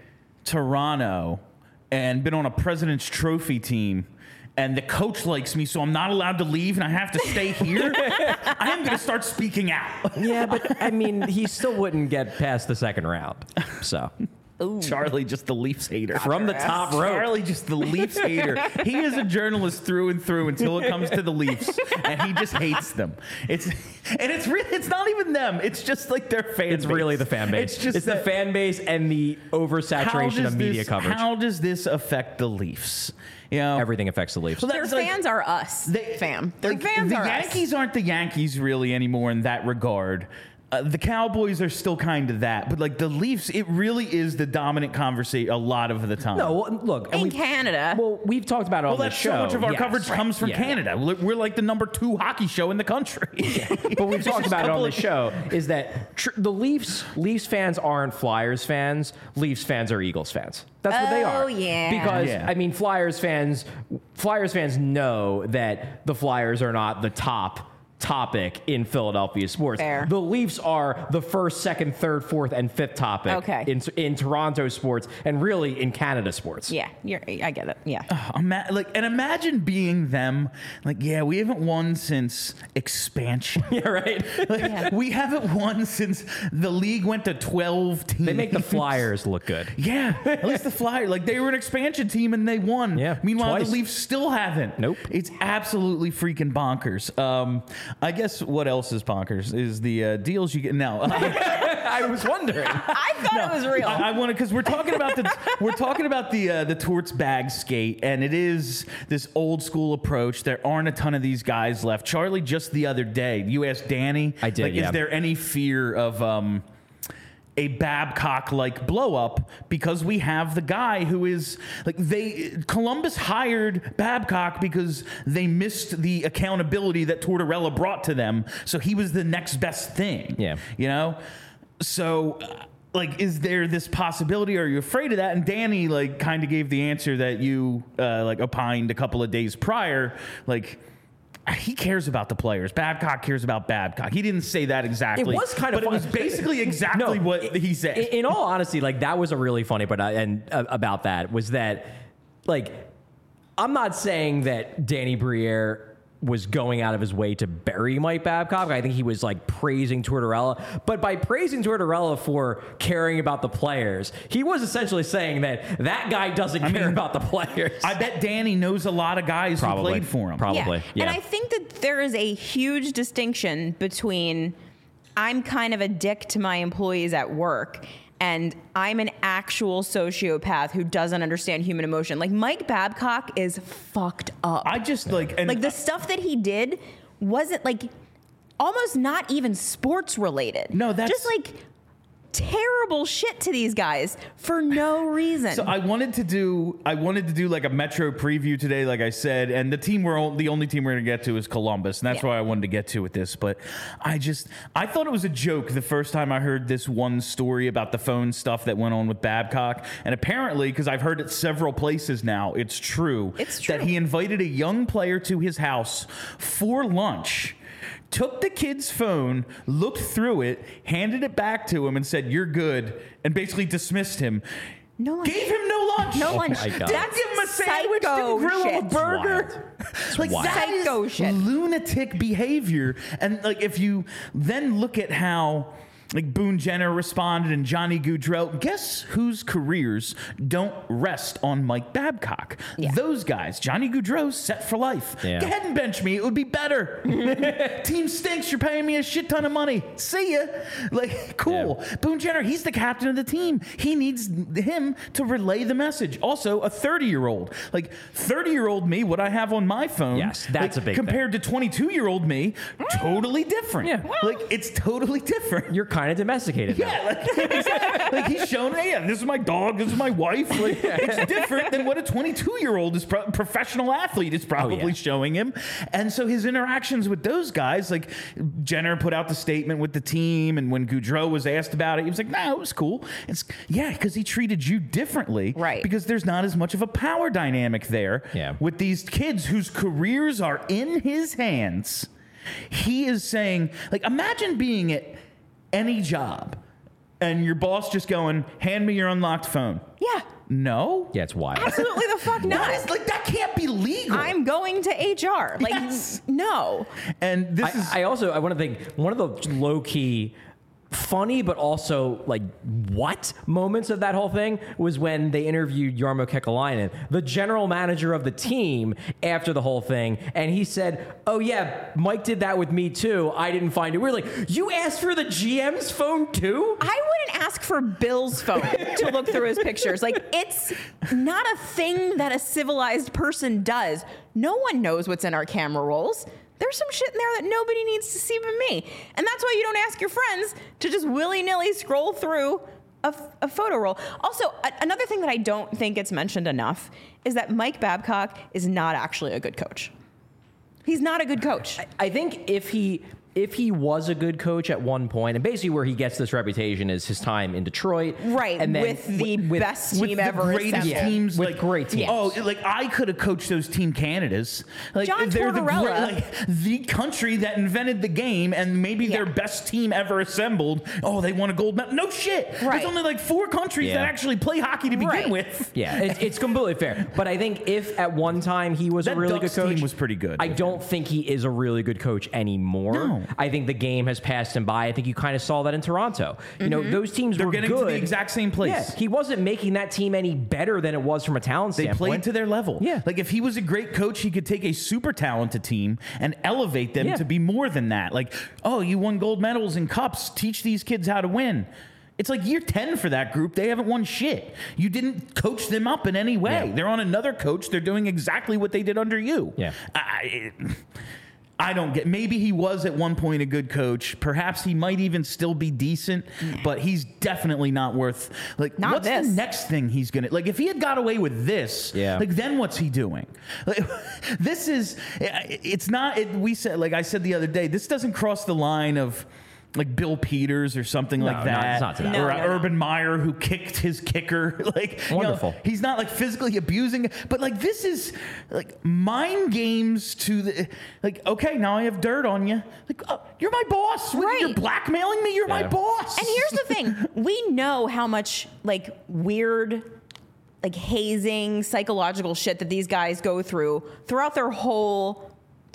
Toronto and been on a President's Trophy team. And the coach likes me, so I'm not allowed to leave, and I have to stay here. I am going to start speaking out.
Yeah, but I mean, he still wouldn't get past the second round. So
Charlie, just the Leafs hater.
from the top rope.
Charlie, just the Leafs hater. He is a journalist through and through until it comes to the Leafs, and he just hates them. It's and it's really it's not even them. It's just like their fan.
It's
base.
really the fan base.
It's just
it's the
that-
fan base and the
how
oversaturation
does
of media
this,
coverage.
How does this affect the Leafs? You know,
Everything affects the Leafs.
Well,
Their
that's like-
fans are us,
They-
fam. Their
like,
fans
the
are
Yankees
us.
aren't the Yankees really anymore in that regard. Uh, the Cowboys are still kind of that, but like the Leafs, it really is the dominant conversation a lot of the time.
No, well, look. and
In
we-
Canada.
Well, we've talked about it
Well,
on the
that's
show.
so much of our
Yes.
coverage comes from
Yeah.
Canada. We're we're like the number two hockey show in the country.
But we've talked
Just
about it on
couple
the
of-
show, is that tr- the Leafs Leafs fans aren't Flyers fans. Leafs fans are Eagles fans. That's what they are.
Oh, yeah.
Because
Yeah.
I mean, Flyers fans Flyers fans know that the Flyers are not the top topic in Philadelphia sports.
Fair.
The Leafs are the first, second, third, fourth, and fifth topic
Okay.
in in Toronto sports and really in Canada sports.
Yeah, you're, I get it. Yeah.
Ima- like, and imagine being them. Like, yeah, we haven't won since expansion.
Yeah, right.
Like,
Yeah.
We haven't won since the league went to twelve teams.
They make the Flyers look good.
Yeah, at least the Flyers. Like, they were an expansion team and they won.
Yeah,
Meanwhile,
twice.
the Leafs still haven't.
Nope.
It's absolutely freaking bonkers. Um, I guess what else is bonkers is the uh, deals you get now.
I was wondering.
I thought it was real.
I, I want to because we're talking about the we're talking about the uh, the Torts bag skate, and it is this old school approach. There aren't a ton of these guys left. Charlie, just the other day, you asked Danny.
I did,
Like,
yeah.
is there any fear of um, a Babcock like blow up because we have the guy who is like they Columbus hired Babcock because they missed the accountability that Tortorella brought to them, so he was the next best thing.
Yeah.
You know? So uh, like is there this possibility? Are you afraid of that? And Danny like kind of gave the answer that you uh, like opined a couple of days prior, like he cares about the players. Babcock cares about Babcock. He didn't say that exactly.
It was kind of
but it
fun.
was basically exactly
No,
what
i-
he said.
In, in all honesty, like that was a really funny part, uh, and uh, about that was that, like, I'm not saying that Danny Briere was going out of his way to bury Mike Babcock. I think he was like praising Tortorella, but by praising Tortorella for caring about the players, he was essentially saying that that guy doesn't
I
care
mean,
about the players.
I bet Danny knows a lot of guys
Probably.
who played for him.
Probably. Yeah.
And I think that there is a huge distinction between I'm kind of a dick to my employees at work and I'm an actual sociopath who doesn't understand human emotion. Like Mike Babcock is fucked up.
I just like and
like the stuff that he did wasn't like almost not even sports related.
No, that's-
just like terrible shit to these guys for no reason.
So I wanted to do I wanted to do like a Metro preview today, like I said, and the team we're o- the only team we're gonna get to is Columbus, and that's
Yeah.
why I wanted to get to with this. But I just I thought it was a joke the first time I heard this one story about the phone stuff that went on with Babcock, and apparently because I've heard it several places now, it's true.
It's true.
that he invited a young player to his house for lunch. Took the kid's phone, looked through it, handed it back to him, and said, "You're good," and basically dismissed him.
No lunch.
Gave him no lunch.
No lunch.
my God.
Didn't
That's
give him a sandwich.
psycho
Didn't grill him a
shit.
burger. Like
wild.
that is
Psycho shit.
lunatic behavior. And like if you then look at how like Boone Jenner responded and Johnny Gaudreau, guess whose careers don't rest on Mike Babcock?
Yeah.
Those guys. Johnny Gaudreau set for life.
Yeah.
Go ahead and bench me. It would be better. Team stinks. You're paying me a shit ton of money. See ya. Like, cool.
Yeah.
Boone Jenner, he's the captain of the team. He needs him to relay the message. Also, a thirty-year-old. Like, thirty-year-old me, what I have on my phone.
Yes, that's
like,
a big thing.
compared to twenty-two-year-old me, totally different.
Yeah.
Like, it's totally different.
You're kind of domesticated now.
Yeah, like, exactly. Like he's shown, hey, yeah, this is my dog, this is my wife. Like, it's different than what a twenty-two-year-old is, pro- professional athlete is probably
Oh, yeah.
showing him. And so his interactions with those guys, like Jenner put out the statement with the team, and when Gaudreau was asked about it, he was like, "No, it was cool." It's yeah, because he treated you differently,
Right.
Because there's not as much of a power dynamic there
Yeah.
with these kids whose careers are in his hands. He is saying, like, imagine being at any job and your boss just going, "Hand me your unlocked phone."
yeah.
No.
Yeah, it's wild.
Absolutely the fuck
That
not.
is like that can't be legal.
I'm going to H R. Like,
Yes.
no.
and this is
I, I also I want to think one of the low key funny but also like what moments of that whole thing was when they interviewed Jarmo Kekalainen, the general manager of the team, after the whole thing, and he said, "Oh yeah, Mike did that with me too. I didn't find it." We're like, "You asked for the G M's phone too?"
I wouldn't ask for Bill's phone to look through his pictures. Like, it's not a thing that a civilized person does. No one knows what's in our camera rolls. There's some shit in there that nobody needs to see but me. And that's why you don't ask your friends to just willy-nilly scroll through a, a photo roll. Also, a, another thing that I don't think gets mentioned enough is that Mike Babcock is not actually a good coach. He's not a good coach.
I think if he if he was a good coach at one point, and basically where he gets this reputation is his time in Detroit,
Right,
and then
with the
with-
best
with
team
the
ever
greatest
assembled.
teams,
With
like
great teams.
Oh, like I could have coached those Team Canadas. Like
John
they're the,
Tortorella.
great- like, the country that invented the game, and maybe
Yeah.
their best team ever assembled. Oh, they won a gold medal. No shit.
Right.
There's only like four countries
Yeah.
that actually play hockey to begin
Right.
with.
Yeah, it, it's completely fair. But I think if at one time he was
That
a really
Ducks
good coach,
team was pretty good.
I don't think he is a really good coach anymore.
No.
I think the game has passed him by. I think you kind of saw that in Toronto. You know, those teams
They're
were
getting
good.
to the exact same place.
Yeah, he wasn't making that team any better than it was from a talent
They
standpoint.
played to their level.
Yeah.
Like if he was a great coach, he could take a super talented team and elevate them
Yeah.
to be more than that. Like, oh, you won gold medals and cups. Teach these kids how to win. It's like year ten for that group. They haven't won shit. You didn't coach them up in any way.
Yeah.
They're on another coach. They're doing exactly what they did under you.
Yeah.
I, I don't get. Maybe he was at one point a good coach. Perhaps he might even still be decent, but he's definitely not worth. Like,
Not
what's
this.
the next thing he's gonna like? If he had got away with this,
Yeah.
like then what's he doing? Like, this is. It's not. It, we said, like I said the other day, this doesn't cross the line of. Like Bill Peters or something like
no,
that,
it's not to that
No,
or
no,
uh,
no.
Urban Meyer who kicked his kicker. Like you know,
Wonderful.
he's not like physically abusing, but like this is like mind games to the like. Okay, now I have dirt on you. Like oh, you're my boss. What,
Right.
You're blackmailing me. You're my
Yeah.
boss.
And here's the thing: we know how much like weird, like hazing, psychological shit that these guys go through throughout their whole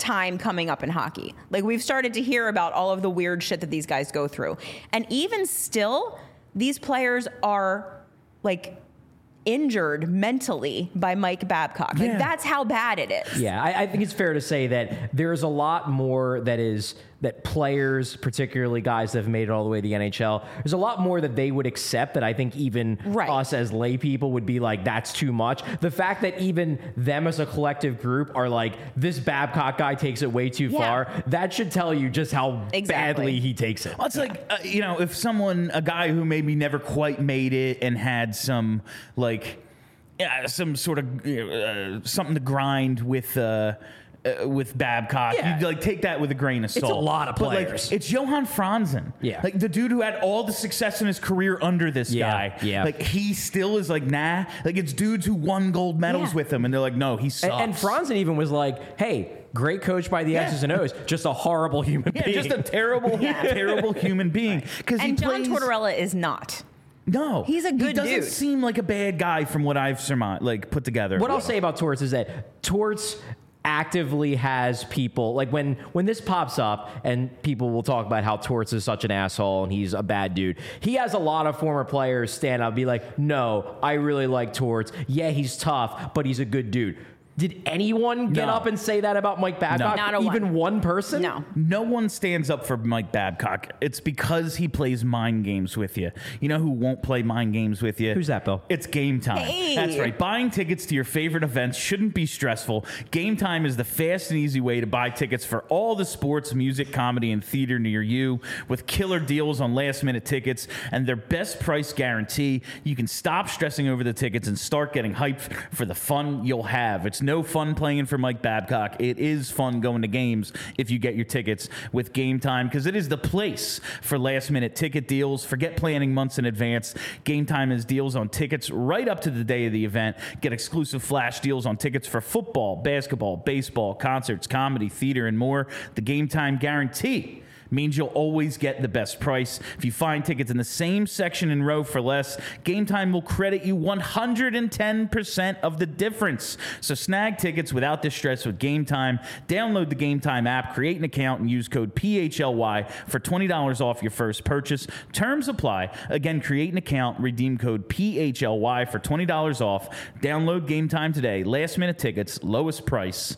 time coming up in hockey. Like, we've started to hear about all of the weird shit that these guys go through. And even still, these players are like injured mentally by Mike Babcock. Like,
Yeah.
that's how bad it is.
Yeah, I, I think it's fair to say that there's a lot more that is that players, particularly guys that have made it all the way to the N H L, there's a lot more that they would accept that I think even
Right.
us as lay people would be like, that's too much. The fact that even them as a collective group are like, this Babcock guy takes it way too
Yeah.
far, that should tell you just how
Exactly.
badly he takes it.
Well, it's like, uh, you know, if someone, a guy who maybe never quite made it and had some, like, yeah, some sort of uh, something to grind with, uh, uh, with Babcock,
Yeah.
you'd like take that with a grain of salt.
a lot of
But, like,
players.
it's Johan Franzen.
Yeah.
Like the dude who had all the success in his career under this
Yeah,
guy.
yeah.
Like he still is like, nah. Like it's dudes who won gold medals
Yeah.
with him and they're like, no, he sucks.
And, and Franzen even was like, hey, great coach by the
Yeah.
X's and O's, just a horrible human
yeah,
being.
just a terrible, terrible human being. Because he
And John
plays,
Tortorella is not.
No,
He's a
He
good
doesn't
dude.
seem like a bad guy from what I've surmised, like put together.
What I'll say about Torts is that Torts actively has people like when when this pops up and people will talk about how Torts is such an asshole and he's a bad dude. He has a lot of former players stand up and be like, no, I really like Torts. Yeah, he's tough, but he's a good dude. Did anyone get
No.
up and say that about Mike Babcock?
Not a
Even
one.
one person?
No.
No one stands up for Mike Babcock. It's because he plays mind games with you. You know who won't play mind games with you?
Who's that, Bill?
It's Game Time.
Hey.
That's right. Buying tickets to your favorite events shouldn't be stressful. Game Time is the fast and easy way to buy tickets for all the sports, music, comedy, and theater near you. With killer deals on last-minute tickets and their best price guarantee, you can stop stressing over the tickets and start getting hyped for the fun you'll have. It's no fun playing for Mike Babcock. It is fun going to games if you get your tickets with Game Time because it is the place for last-minute ticket deals. Forget planning months in advance. Game Time has deals on tickets right up to the day of the event. Get exclusive flash deals on tickets for football, basketball, baseball, concerts, comedy, theater, and more. The Game Time guarantee means you'll always get the best price. If you find tickets in the same section and row for less, Game Time will credit you one hundred ten percent of the difference. So snag tickets without the stress with Game Time. Download the Game Time app, create an account, and use code P H L Y for twenty dollars off your first purchase. Terms apply. Again, create an account, redeem code P H L Y for twenty dollars off. Download Game Time today. Last minute tickets, lowest price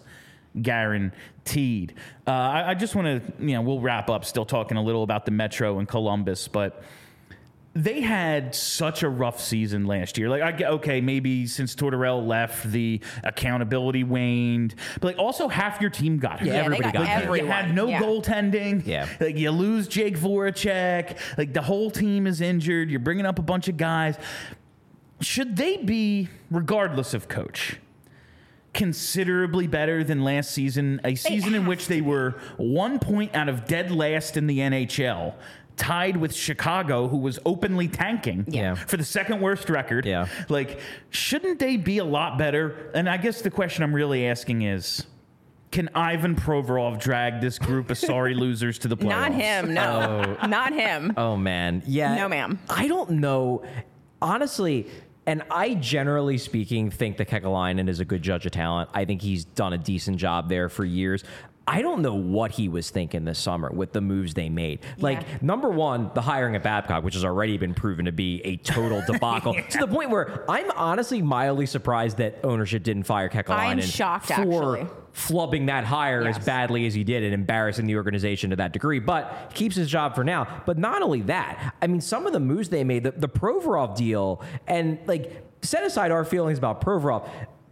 guaranteed. Uh, I, I just want to, you know, we'll wrap up still talking a little about the Metro and Columbus, but they had such a rough season last year. Like, I get, okay, maybe since Tortorella left, the accountability waned, but like also half your team got hurt.
Yeah, everybody
they got
got hurt.
everyone.
You had no
Yeah.
goaltending.
Yeah.
Like you lose Jake Voracek. Like the whole team is injured. You're bringing up a bunch of guys. Should they be, regardless of coach, considerably better than last season, a season in
have
which they were one point out of dead last in the N H L, tied with Chicago, who was openly tanking
Yeah.
for the second worst record?
Yeah.
Like, shouldn't they be a lot better? And I guess the question I'm really asking is, can Ivan Provorov drag this group of sorry losers to the playoffs?
Not him. No. Not him.
Oh, man. Yeah.
No, ma'am.
I don't know. Honestly, and I generally speaking think that Kekalainen is a good judge of talent. I think he's done a decent job there for years. I don't know what he was thinking this summer with the moves they made. Like,
Yeah.
number one, the hiring of Babcock, which has already been proven to be a total debacle, to the point where I'm honestly mildly surprised that ownership didn't fire Kekalainen
I'm shocked,
for
actually.
flubbing that hire
Yes.
as badly as he did and embarrassing the organization to that degree. But he keeps his job for now. But not only that, I mean, some of the moves they made, the, the Provorov deal, and like, set aside our feelings about Provorov,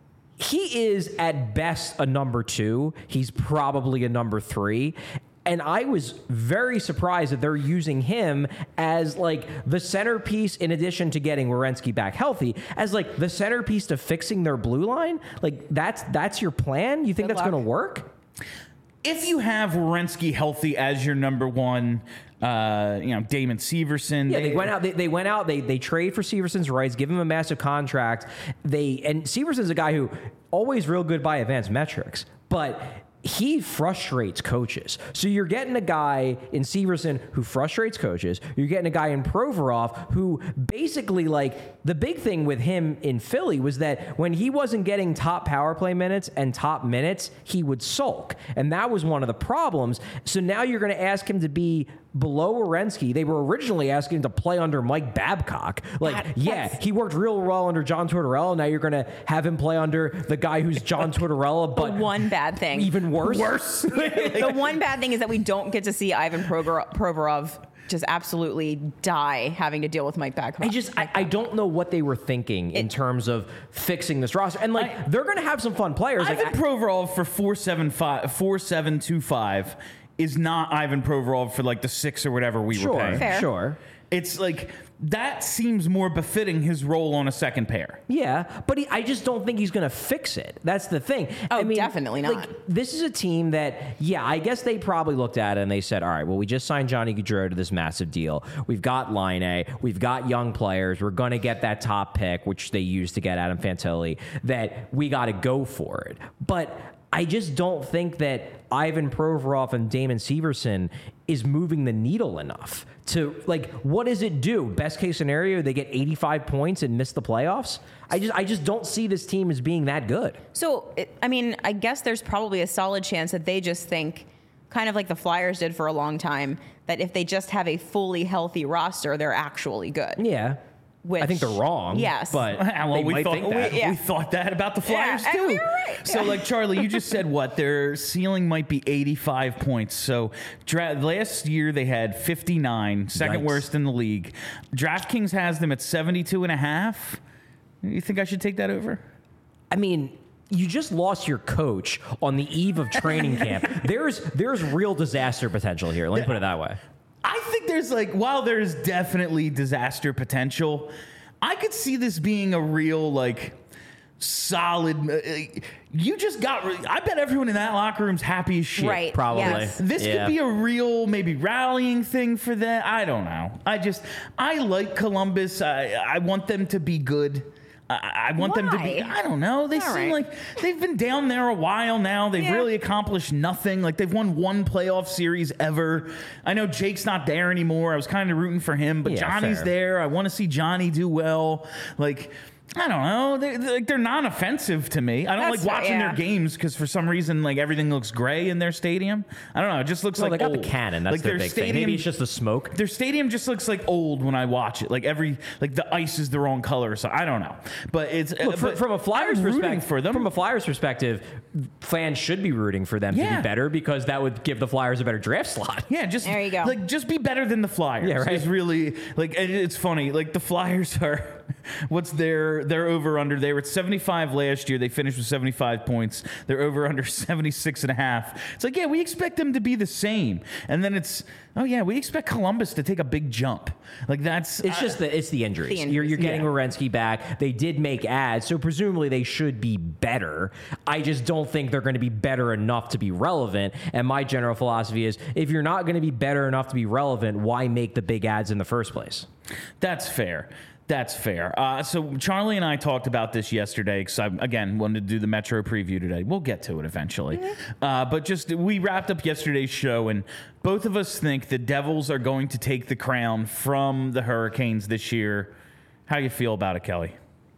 he is at best a number two. He's probably a number three. And I was very surprised that they're using him as like the centerpiece, in addition to getting Werenski back healthy, as like the centerpiece to fixing their blue line. Like that's that's your plan? You think
Good
that's
luck.
going to work?
If you have Werenski healthy as your number one, uh, you know, Damon Severson.
Yeah, they went out. They, they went out. They they trade for Severson's rights, give him a massive contract. They and Severson's a guy who always real good by advanced metrics, but he frustrates coaches. So you're getting a guy in Severson who frustrates coaches. You're getting a guy in Provorov who basically, like, the big thing with him in Philly was that when he wasn't getting top power play minutes and top minutes, he would sulk. And that was one of the problems. So now you're going to ask him to be below Werenski. They were originally asking him to play under Mike Babcock. Like,
That-
yeah,
that's-
he worked real well under John Tortorella. Now you're going to have him play under the guy who's John Tortorella,
The
but
one bad thing.
even worse.
Worse.
the one bad thing is that we don't get to see Ivan Provorov, Provorov just absolutely die having to deal with Mike Babcock.
I just, I, I don't know what they were thinking in
It-
terms of fixing this roster. And, like,
I-
they're going to have some fun players. Like,
Ivan
I-
Provorov for four seven five four seven two five is not Ivan Provorov for like the six or whatever we were
sure,
paying.
Fair.
sure.
It's like that seems more befitting his role on a second pair.
Yeah, but he, I just don't think he's going to fix it. That's the thing.
Oh,
I mean,
definitely not.
Like, this is a team that, yeah, I guess they probably looked at it and they said, all right, well, we just signed Johnny Gaudreau to this massive deal. We've got Line A. We've got young players. We're going to get that top pick, which they used to get Adam Fantilli, that we got to go for it. But I just don't think that Ivan Provorov and Damon Severson is moving the needle enough to, like, what does it do? Best case scenario, they get eighty-five points and miss the playoffs. I just, I just don't see this team as being that good.
So, it, I mean, I guess there's probably a solid chance that they just think, kind of like the Flyers did for a long time, that if they just have a fully healthy roster, they're actually good.
Yeah.
Which,
I think they're wrong.
Yes.
But
well,
they
we
might
thought
think that.
we,
Yeah.
we thought that about the Flyers
Yeah, and
too.
we were right.
So,
Yeah.
like Charlie, you just said what their ceiling might be eighty-five points. So, dra- last year they had fifty-nine, second
Yikes.
worst in the league. DraftKings has them at seventy-two and a half. You think I should take that over?
I mean, you just lost your coach on the eve of training camp. There's there's real disaster potential here. Let me put it that way.
I think there's like, while there's definitely disaster potential, I could see this being a real, like, solid. Uh, you just got, re- I bet everyone in that locker room's happy as shit.
Right.
Probably.
Yes.
This
Yeah.
could be a real, maybe rallying thing for them. I don't know. I just, I like Columbus. I, I want them to be good. I, I want them to be,
Why?
I don't know. They
All
seem
right.
like they've been down there a while now. They've
Yeah.
really accomplished nothing. Like, they've won one playoff series ever. I know Jake's not there anymore. I was kind of rooting for him, but
Yeah,
Johnny's
fair.
there. I want to see Johnny do well. Like, I don't know. They're, they're, like, they're non-offensive to me. I don't
That's
like
fair,
watching
yeah.
their games because for some reason, like, everything looks gray in their stadium. I don't know. It just looks
Well,
like
they got
old.
the cannon. That's
like
their big thing. Maybe it's just the smoke.
their stadium just looks like old when I watch it. Like every like the ice is the wrong color. So I don't know. But it's
Look,
uh,
fr-
but
from a Flyers
I'm rooting
perspective,
for them.
From a Flyers perspective, fans should be rooting for them to
Yeah.
be better because that would give the Flyers a better draft slot.
Yeah, just
There you go.
Like, just be better than the Flyers.
Yeah, right.
Is really like and it's funny. Like the Flyers are, what's their their over under? They were at seventy-five last year. They finished with seventy-five points. They're over under seventy-six and a half. It's like, yeah, we expect them to be the same. And then it's, oh yeah, we expect Columbus to take a big jump. Like that's
It's just the it's the injuries.
The injuries,
You're, you're getting
yeah.
Werenski back. They did make ads, so presumably they should be better. I just don't think they're going to be better enough to be relevant. And my general philosophy is, if you're not going to be better enough to be relevant, why make the big ads in the first place?
That's fair. That's fair. Uh, so Charlie and I talked about this yesterday because I, again, wanted to do the Metro preview today. We'll get to it eventually. Uh, but just, we wrapped up yesterday's show, and both of us think the Devils are going to take the crown from the Hurricanes this year. How you feel about it, Kelly?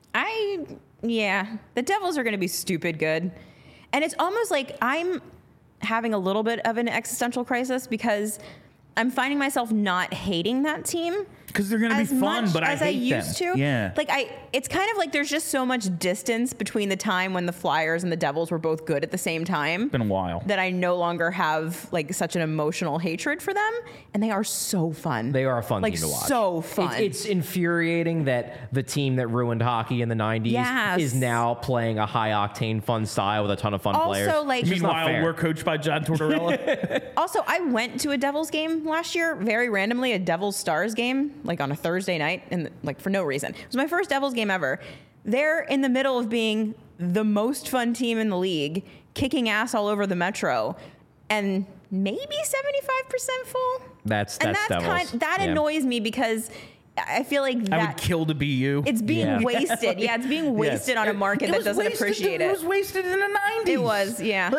I, yeah, the Devils are going to be stupid good. And it's almost like I'm having a little bit of an existential crisis because I'm finding myself not hating that team.
Because they're going to be
As
fun,
much
but I
as
hate
I used
them.
to.
Yeah.
Like I, it's kind of like there's just so much distance between the time when the Flyers and the Devils were both good at the same time.
Been a while.
That I no longer have like such an emotional hatred for them, and they are so fun.
They are a fun
like,
team to watch.
So fun.
It's, it's infuriating that the team that ruined hockey in the nineties
Yes.
is now playing a high octane fun style with a ton of fun
Also,
players.
like-
It's just not
Meanwhile,
fair.
we're coached by John Tortorella.
Also, I went to a Devils game last year, very randomly, a Devils Stars game, like on a Thursday night, and like for no reason. It was my first Devils game ever. They're in the middle of being the most fun team in the league, kicking ass all over the Metro, and maybe seventy-five percent full.
That's
and
that's
that's
Devils.
kind that
Yeah.
annoys me because I feel like
I would
that
kill to be you.
it's being
Yeah.
yeah, it's being wasted on a market
It
that
was
doesn't
wasted-
appreciate
It
it.
was wasted in the nineties.
It was, yeah.
Like,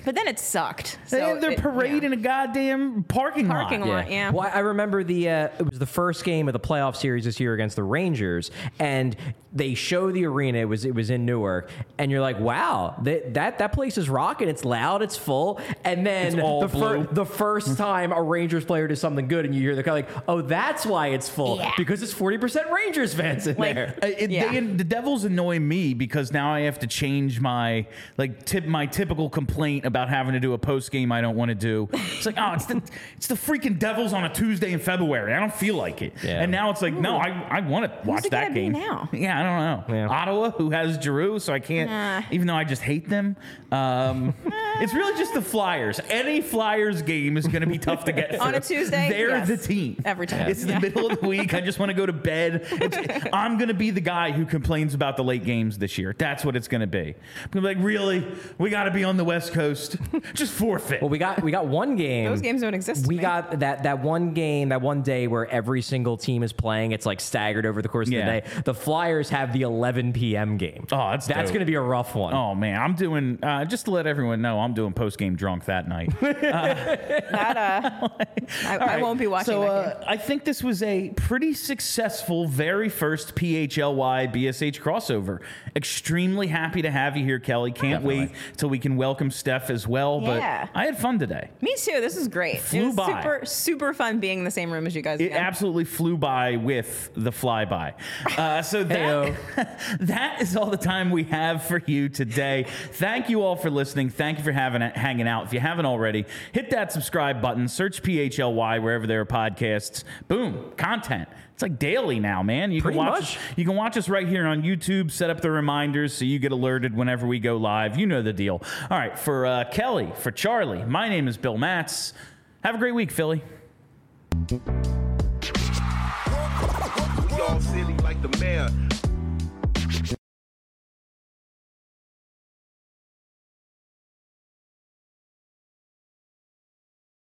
But then it sucked.
They
So
have their
it-
parade
yeah.
in a goddamn parking,
Parking
lot.
lot. Yeah.
Well, I remember the uh, it was the first game of the playoff series this year against the Rangers, and they show the arena. It was it was in Newark, and you're like, wow, that that, that place is rocking. It's loud. It's full. And then
It's all
the,
blue.
the first time a Rangers player does something good, and you hear the kind of like, oh, that's why it's full
Yeah.
because it's forty percent Rangers fans in
Like,
there.
Uh, it-
Yeah.
they- the Devils annoy me because now I have to change my like tip my typical complaint about having to do a post game I don't want to do. It's like, oh, it's the it's the freaking Devils on a Tuesday in February. I don't feel like it.
Yeah.
And now it's like, no, I, I want to watch
it
that
gonna be
game
now?
Yeah, I don't know.
Yeah.
Ottawa, who has Giroux, so I can't.
Nah.
Even though I just hate them, um, it's really just the Flyers. Any Flyers game is going to be tough to get through.
On a Tuesday?
They're
Yes.
the team
Every time.
It's the
Yeah.
middle of the week. I just want to go to bed. It's, I'm going to be the guy who complains about the late games this year. That's what it's going to be. I'm gonna be like, really? We got to be on the West Coast? Just forfeit.
Well, we got we got one game.
Those games don't exist to
We
me.
got that that one game, that one day where every single team is playing. It's like staggered over the course
Yeah.
of the day. The Flyers have the eleven p.m. game.
Oh, that's
that's
dope.
going to be a rough one.
Oh man, I'm doing uh, just to let everyone know I'm doing post game drunk that night.
That, uh, I, I won't be watching
So
that
uh,
game.
I think this was a pretty successful very first P H L Y B S H crossover. Extremely happy to have you here, Kelly. Can't
Definitely.
wait till we can welcome Steph as well.
Yeah.
But I had fun today.
Me too. This is great.
Flew
it was
by.
super, super fun being in the same room as you guys
It
again.
absolutely flew by with the flyby. Uh, so that, that is all the time we have for you today. Thank you all for listening. Thank you for having hanging out. If you haven't already, hit that subscribe button. Search P H L Y wherever there are podcasts. Boom, content. It's like daily now, man. You
Pretty
can watch
much.
Us, you can watch us right here on YouTube. Set up the reminders so you get alerted whenever we go live. You know the deal. All right, for uh, Kelly, for Charlie, my name is Bill Matz. Have a great week, Philly.
We all silly like the mayor.